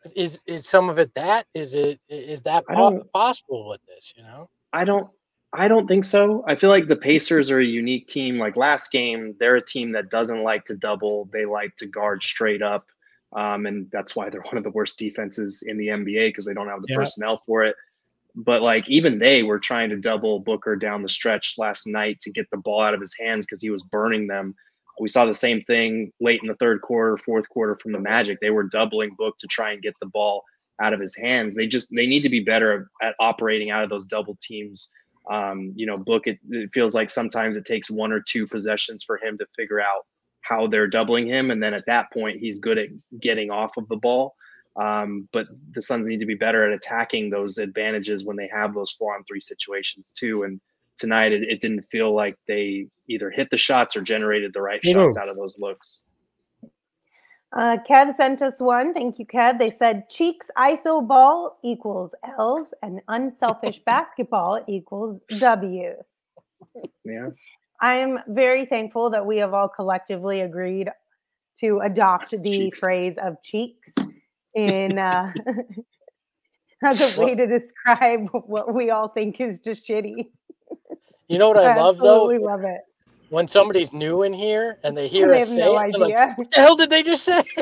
is is some of it that? Is it is that I po- don't- possible with this? You know, I don't I don't think so. I feel like the Pacers are a unique team. Like last game, they're a team that doesn't like to double. They like to guard straight up. Um, and that's why they're one of the worst defenses in the N B A because they don't have the Yeah. personnel for it. But like even they were trying to double Booker down the stretch last night to get the ball out of his hands because he was burning them. We saw the same thing late in the third quarter, fourth quarter from the Magic. They were doubling Book to try and get the ball out of his hands. They just they need to be better at operating out of those double teams. Um, you know, Book, it, it feels like sometimes it takes one or two possessions for him to figure out how they're doubling him. And then at that point, he's good at getting off of the ball. Um, but the Suns need to be better at attacking those advantages when they have those four on three situations too. And tonight, it, it didn't feel like they either hit the shots or generated the right You shots know. out of those looks. Uh, Kev sent us one. Thank you, Kev. They said Cheeks I S O ball equals L's and unselfish basketball equals W's. Yeah. I'm very thankful that we have all collectively agreed to adopt the Cheeks. phrase of cheeks in uh, as a way to describe what we all think is just shitty. you know what I love though? absolutely love it. When somebody's new in here and they hear And they us have say no it, they're like, idea. what the hell did they just say?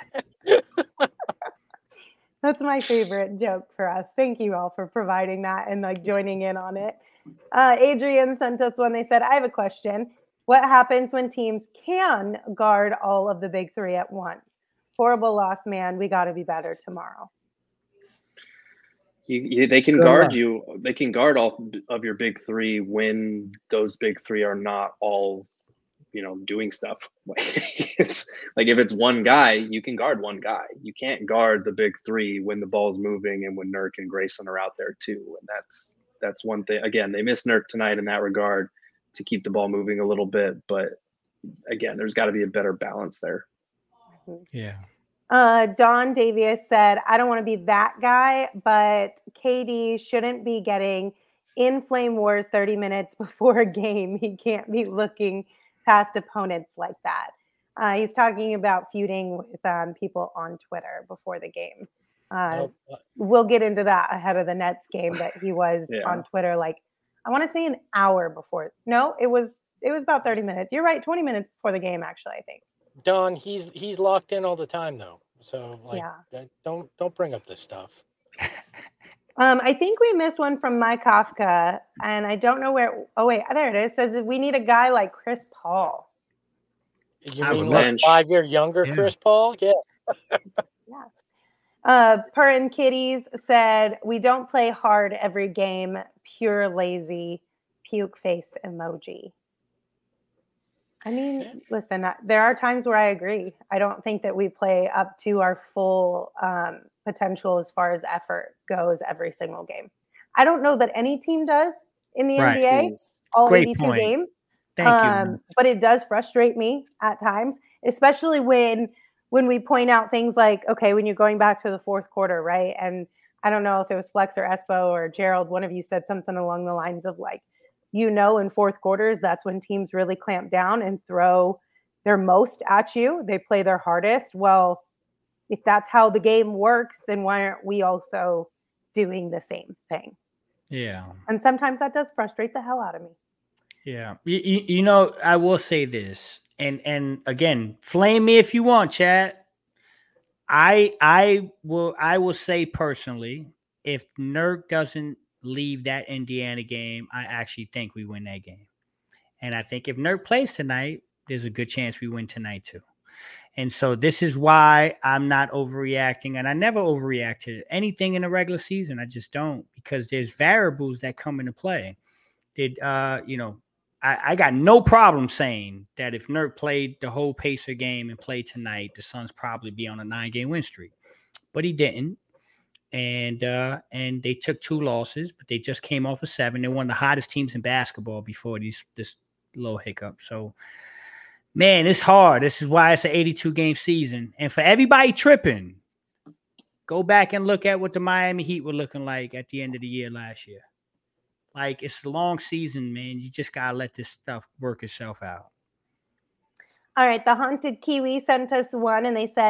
That's my favorite joke for us. Thank you all for providing that and like joining in on it. Uh, Adrian sent us one. They said, I have a question. What happens when teams can guard all of the big three at once? Horrible loss, man. We got to be better tomorrow. You, you, they can Good guard luck. you. They can guard all of your big three when those big three are not all, you know, doing stuff. It's like if it's one guy, you can guard one guy. You can't guard the big three when the ball's moving and when Nurk and Grayson are out there too. And that's that's one thing. Again, they missed Nurk tonight in that regard to keep the ball moving a little bit. But again, there's got to be a better balance there. Yeah. Uh, Don Davies said, I don't want to be that guy, but K D shouldn't be getting in Flame Wars thirty minutes before a game. He can't be looking past opponents like that. Uh, he's talking about feuding with um, people on Twitter before the game. Uh, Oh, uh, we'll get into that ahead of the Nets game that he was Yeah. on Twitter like, I want to say an hour before. No, it was it was about thirty minutes. You're right, twenty minutes before the game, actually, I think. Don, he's he's locked in all the time though. So like, Yeah. that- don't don't bring up this stuff. Um, I think we missed one from Mike Kafka, and I don't know where. Oh wait, there it is. It says that we need a guy like Chris Paul. You I mean would like bench. five year younger Yeah. Chris Paul? Yeah. Uh, Purrin Kitties said we don't play hard every game. Pure lazy, puke face emoji. I mean, Yeah. listen, uh, there are times where I agree. I don't think that we play up to our full um, potential as far as effort goes every single game. I don't know that any team does in the Right. N B A, all Great eighty-two point. games. Thank um, you. But it does frustrate me at times, especially when when we point out things like, okay, when you're going back to the fourth quarter, right? And I don't know if it was Flex or Espo or Gerald, one of you said something along the lines of like, you know, in fourth quarters, that's when teams really clamp down and throw their most at you. They play their hardest. Well, if that's how the game works, then why aren't we also doing the same thing? Yeah. And sometimes that does frustrate the hell out of me. Yeah. You, you, you know, I will say this, and and again, flame me if you want, Chad. I I will I will say personally, if Nurk doesn't leave that Indiana game, I actually think we win that game. And I think if Nurk plays tonight, there's a good chance we win tonight too. And so this is why I'm not overreacting, and I never overreact to anything in the regular season. I just don't, because there's variables that come into play. Did uh, you know, I, I got no problem saying that if Nurk played the whole Pacer game and played tonight, the Suns probably be on a nine-game win streak. But he didn't. And uh, and they took two losses, but they just came off of seven. They're one of the hottest teams in basketball before these this little hiccup. So, man, it's hard. This is why it's an eighty-two game season. And for everybody tripping, go back and look at what the Miami Heat were looking like at the end of the year last year. Like, it's a long season, man. You just got to let this stuff work itself out. All right, the Haunted Kiwi sent us one, and they said,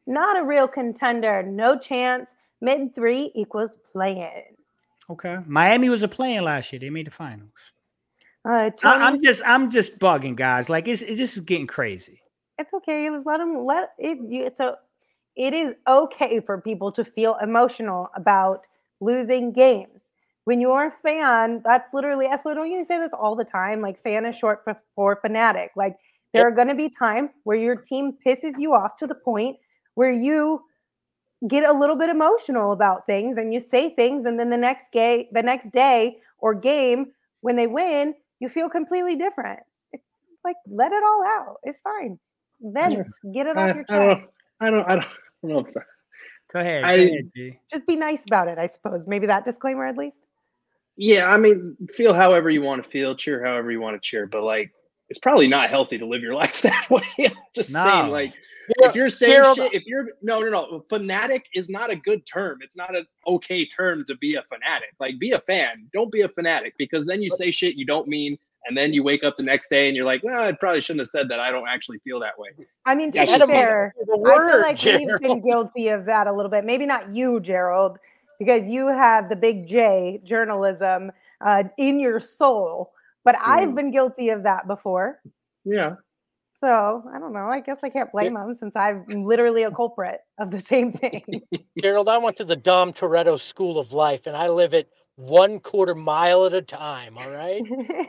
not a real contender. No chance. Mid three equals play-in. Okay. Miami was a play-in last year. They made the finals. Uh, I, I'm just, I'm just bugging, guys. Like it's, it's just getting crazy. It's okay. Let them let it. It's a. It is okay for people to feel emotional about losing games. When you're a fan, that's literally. Espo, don't you say this all the time? Like fan is short for, for fanatic. Like there yep. are going to be times where your team pisses you off to the point where you get a little bit emotional about things and you say things, and then the next day, the next day or game when they win, you feel completely different. It's like let it all out. It's fine. Vent, get it I, off your chest. I don't, I don't, I don't, I don't know. If, go ahead. I, go ahead, G. Just be nice about it, I suppose. Maybe that disclaimer at least. Yeah, I mean, feel however you want to feel, cheer however you want to cheer, but like, it's probably not healthy to live your life that way. I'm just no. saying, like, Yeah, if you're saying Gerald, shit, if you're no, no, no, fanatic is not a good term. It's not an okay term to be a fanatic. Like, be a fan. Don't be a fanatic, because then you say shit you don't mean. And then you wake up the next day and you're like, well, I probably shouldn't have said that. I don't actually feel that way. I mean, to That's be just fair, the I word, feel like Gerald. we've been guilty of that a little bit. Maybe not you, Gerald, because you have the big J, journalism, uh, in your soul. But mm. I've been guilty of that before. Yeah. So, I don't know. I guess I can't blame them since I'm literally a culprit of the same thing. Gerald, I went to the Dom Toretto School of Life, and I live it one quarter mile at a time, all right?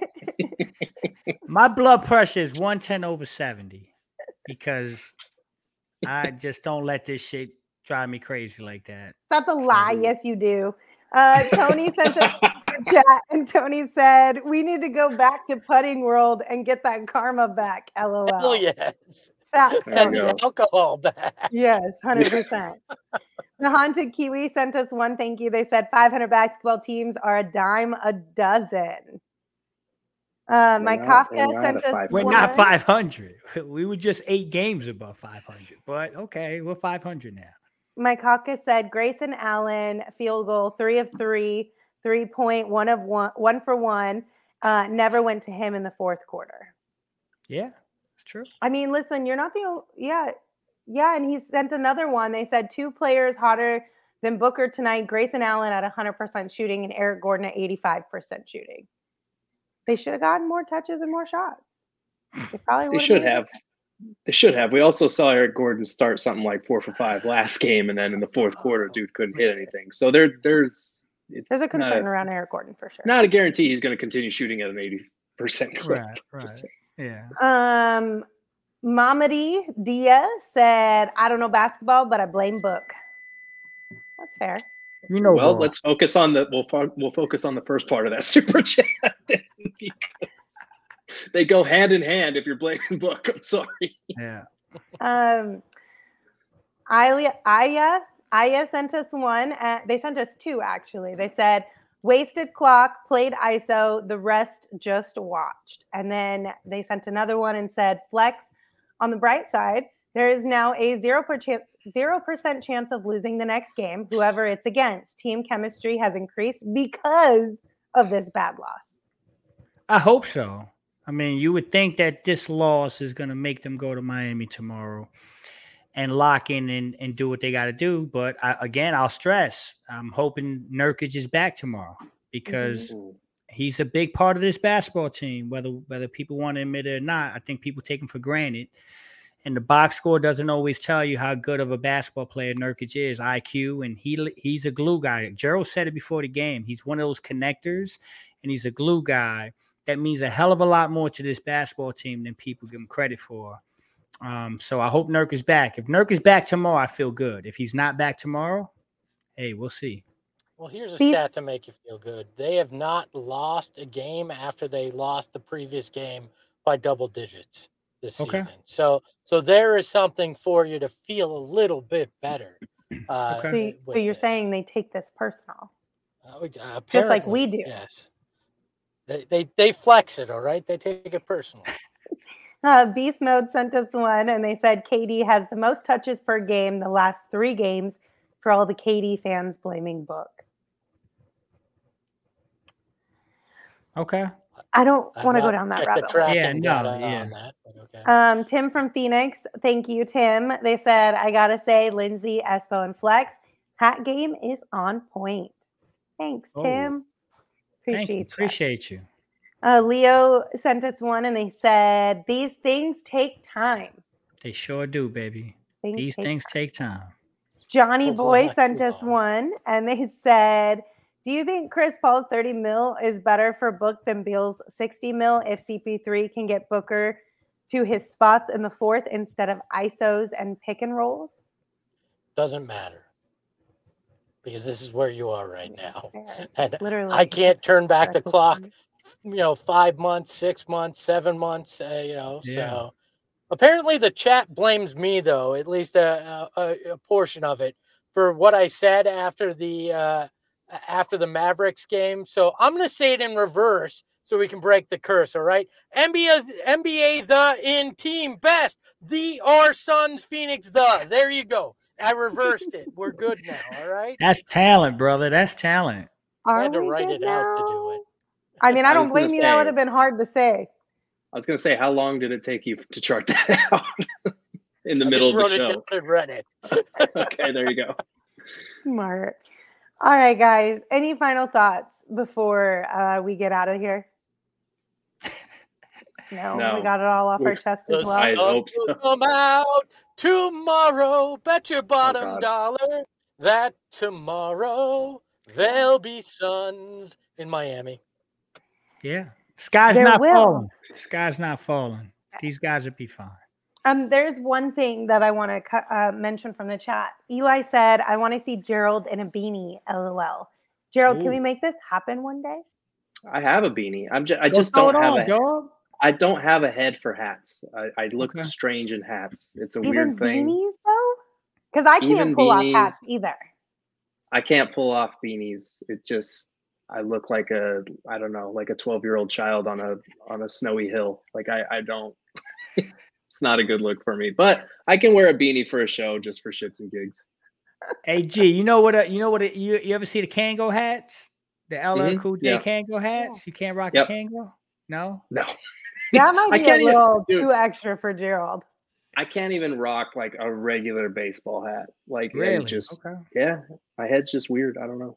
My blood pressure is one ten over seventy because I just don't let this shit drive me crazy like that. That's a lie. Yes, you do. Uh, Tony sent us a chat, and Tony said, we need to go back to Putting World and get that karma back. LOL. Hell yes. Facts, And the alcohol back. Yes, one hundred percent. The Haunted Kiwi sent us one thank you. They said five hundred basketball teams are a dime a dozen. Uh, my not, Kafka sent us. We're one. Not five hundred. We were just eight games above five hundred. But okay, we're five hundred now. My Kafka said Grayson Allen field goal three of three, three point one of one, one for one. Uh, never went to him in the fourth quarter. Yeah, it's true. I mean, listen, you're not the only. Yeah, yeah, and he sent another one. They said two players hotter than Booker tonight: Grayson Allen at one hundred percent shooting and Eric Gordon at eighty-five percent shooting. They should have gotten more touches and more shots. They probably they should have. They should have. We also saw Eric Gordon start something like four for five last game, and then in the fourth quarter, dude couldn't hit anything. So there, there's it's there's a concern a, around Eric Gordon for sure. Not a guarantee he's going to continue shooting at an eighty percent clip. Right, right. Yeah. Um, Mamadi Dia said, "I don't know basketball, but I blame Book." That's fair. You know, well, bro. let's focus on the we'll fo- we'll focus on the first part of that super chat because they go hand in hand. If you're blaming Book, I'm sorry. Yeah. Um, Aya Aya Aya sent us one. Uh, they sent us two actually. They said wasted clock, played I S O, the rest just watched. And then they sent another one and said flex. On the bright side, there is now a zero percent zero percent chance of losing the next game, whoever it's against. Team chemistry has increased because of this bad loss. I hope so. I mean, you would think that this loss is going to make them go to Miami tomorrow and lock in and, and do what they got to do. But I, again, I'll stress, I'm hoping Nurkic is back tomorrow because mm-hmm. he's a big part of this basketball team, whether whether people want to admit it or not. I think people take him for granted. And the box score doesn't always tell you how good of a basketball player Nurkic is, I Q, and he he's a glue guy. Gerald said it before the game. He's one of those connectors, and he's a glue guy. That means a hell of a lot more to this basketball team than people give him credit for. Um, so I hope Nurk is back. If Nurk is back tomorrow, I feel good. If he's not back tomorrow, hey, we'll see. Well, here's a stat to make you feel good. They have not lost a game after they lost the previous game by double digits this okay. season. So so there is something for you to feel a little bit better. Uh, okay. So, so you're this. saying they take this personal? Uh, Just like we do. Yes. They, they, they flex it, all right? They take it personal. Uh, Beast Mode sent us one, and they said K D has the most touches per game the last three games for all the K D fans blaming Book. Okay. I don't I've want to go not down that checked rabbit the hole. tracking Yeah, no, data yeah. on that. But okay. Um, Tim from Phoenix, thank you, Tim. They said, I gotta say, Lindsay, Espo, and Flex, hat game is on point. Thanks, Oh, Tim. Thank you. Appreciate that. Appreciate you. Uh, Leo sent us one, and they said, these things take time. They sure do, baby. Things These take things time. take time. Johnny Hopefully Boy not sent too us long. one, and they said, do you think Chris Paul's thirty mil is better for Book than Beal's sixty mil if C P three can get Booker to his spots in the fourth instead of I S Os and pick and rolls? Doesn't matter. Because this is where you are right now. Fair. And Literally, I can't turn back the that's clock, the you know, five months, six months, seven months, uh, you know, Yeah. so apparently the chat blames me though, at least a, a, a portion of it, for what I said after the uh, after the Mavericks game. So I'm going to say it in reverse so we can break the curse. All right. N B A, N B A, the in team best, the our Suns Phoenix, the, there you go. I reversed it. We're good now. All right. That's talent, brother. That's talent. I Are had to we write good it out to do now? it. I mean, I I don't was gonna blame you. That say- would have been hard to say. I was going to say, how long did it take you to chart that out in the I middle just of the wrote it show? down and read it. Okay, there you go. Smart. All right, guys. Any final thoughts before uh, we get out of here? No, No. we got it all off our We're- chest The as well. I sun hope so. will come out tomorrow. Bet your bottom God. dollar that tomorrow there'll be suns in Miami. Yeah. Sky's There not will. falling. Sky's not falling. These guys will be fine. Um, there's one thing that I want to uh, mention from the chat. Eli said, I want to see Gerald in a beanie, LOL. Gerald, can Ooh. we make this happen one day? I have a beanie. I'm just, I Go just throw don't it have on, a. dog. I don't have a head for hats. I, I look Okay. strange in hats. It's a Even weird thing. beanies, though? Because I can't Even pull off hats beanies. either. I can't pull off beanies. It just, I look like a, I don't know, like a twelve year old child on a on a snowy hill. Like I, I don't. It's not a good look for me. But I can wear a beanie for a show just for shits and gigs. Hey G, you know what? A, you know what? A, you you ever see the Kango hats? The L L Mhm, Cool J yeah. Kango hats? You can't rock Yep. a Kango? No. No, That might I be a can't even- little dude. too extra for Gerald. I can't even rock like a regular baseball hat. Like I Really? just, Okay. yeah, my head's just weird. I don't know.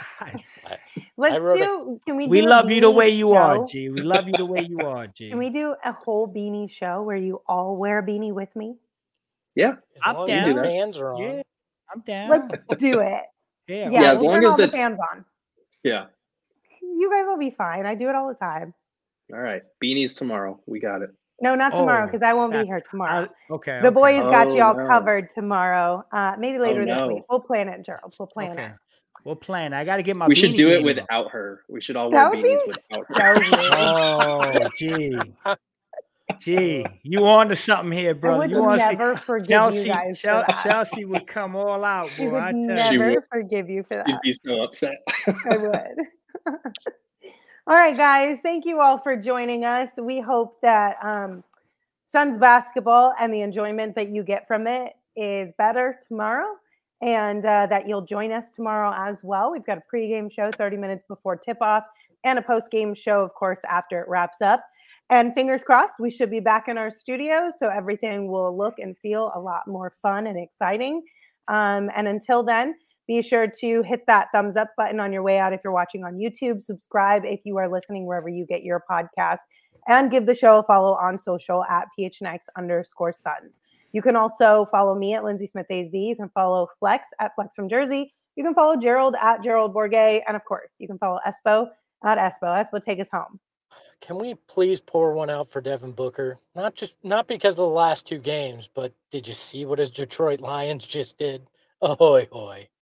Let's wrote a- do, can we we do a love you the beanie way you are, show? G. We love you the way you are, G. Can we do a whole beanie show where you all wear a beanie with me? Yeah, As I'm long down. as the fans are on. Yeah, I'm down. Let's do it. yeah, Yeah, Yeah, as we'll long turn as all the it's- fans on. yeah. You guys will be fine. I do it all the time. All right, beanies tomorrow. We got it. No, not tomorrow Oh, because I won't be that- here tomorrow. I- okay. The okay. boys got Oh, y'all no. covered tomorrow. Uh, maybe later this no. week. We'll plan it, Gerald. We'll plan Okay. it. We'll plan. I got to get my. We should beanie do it game up. without her. We should all That wear would be beanies without her. so weird. Oh, gee, gee, you on to something here, I brother? would You on to never forgive Chelsea? you guys Chel- for that. Chelsea would come all out, I boy. I would tell She you. never would. forgive you for You'd that. be so upset. I would. All right, guys. Thank you all for joining us. We hope that um, Suns basketball and the enjoyment that you get from it is better tomorrow, and uh, that you'll join us tomorrow as well. We've got a pregame show thirty minutes before tip-off and a postgame show, of course, after it wraps up. And fingers crossed, we should be back in our studio, so everything will look and feel a lot more fun and exciting. Um, and until then, be sure to hit that thumbs up button on your way out if you're watching on YouTube. Subscribe if you are listening wherever you get your podcast. And give the show a follow on social at P H N X underscore Suns. You can also follow me at Lindsay Smith A Z. You can follow Flex at Flex from Jersey. You can follow Gerald at Gerald Bourget. And of course, you can follow Espo at Espo. Espo, take us home. Can we please pour one out for Devin Booker? Not just not because of the last two games, but did you see what his Detroit Lions just did? Ahoy, hoy.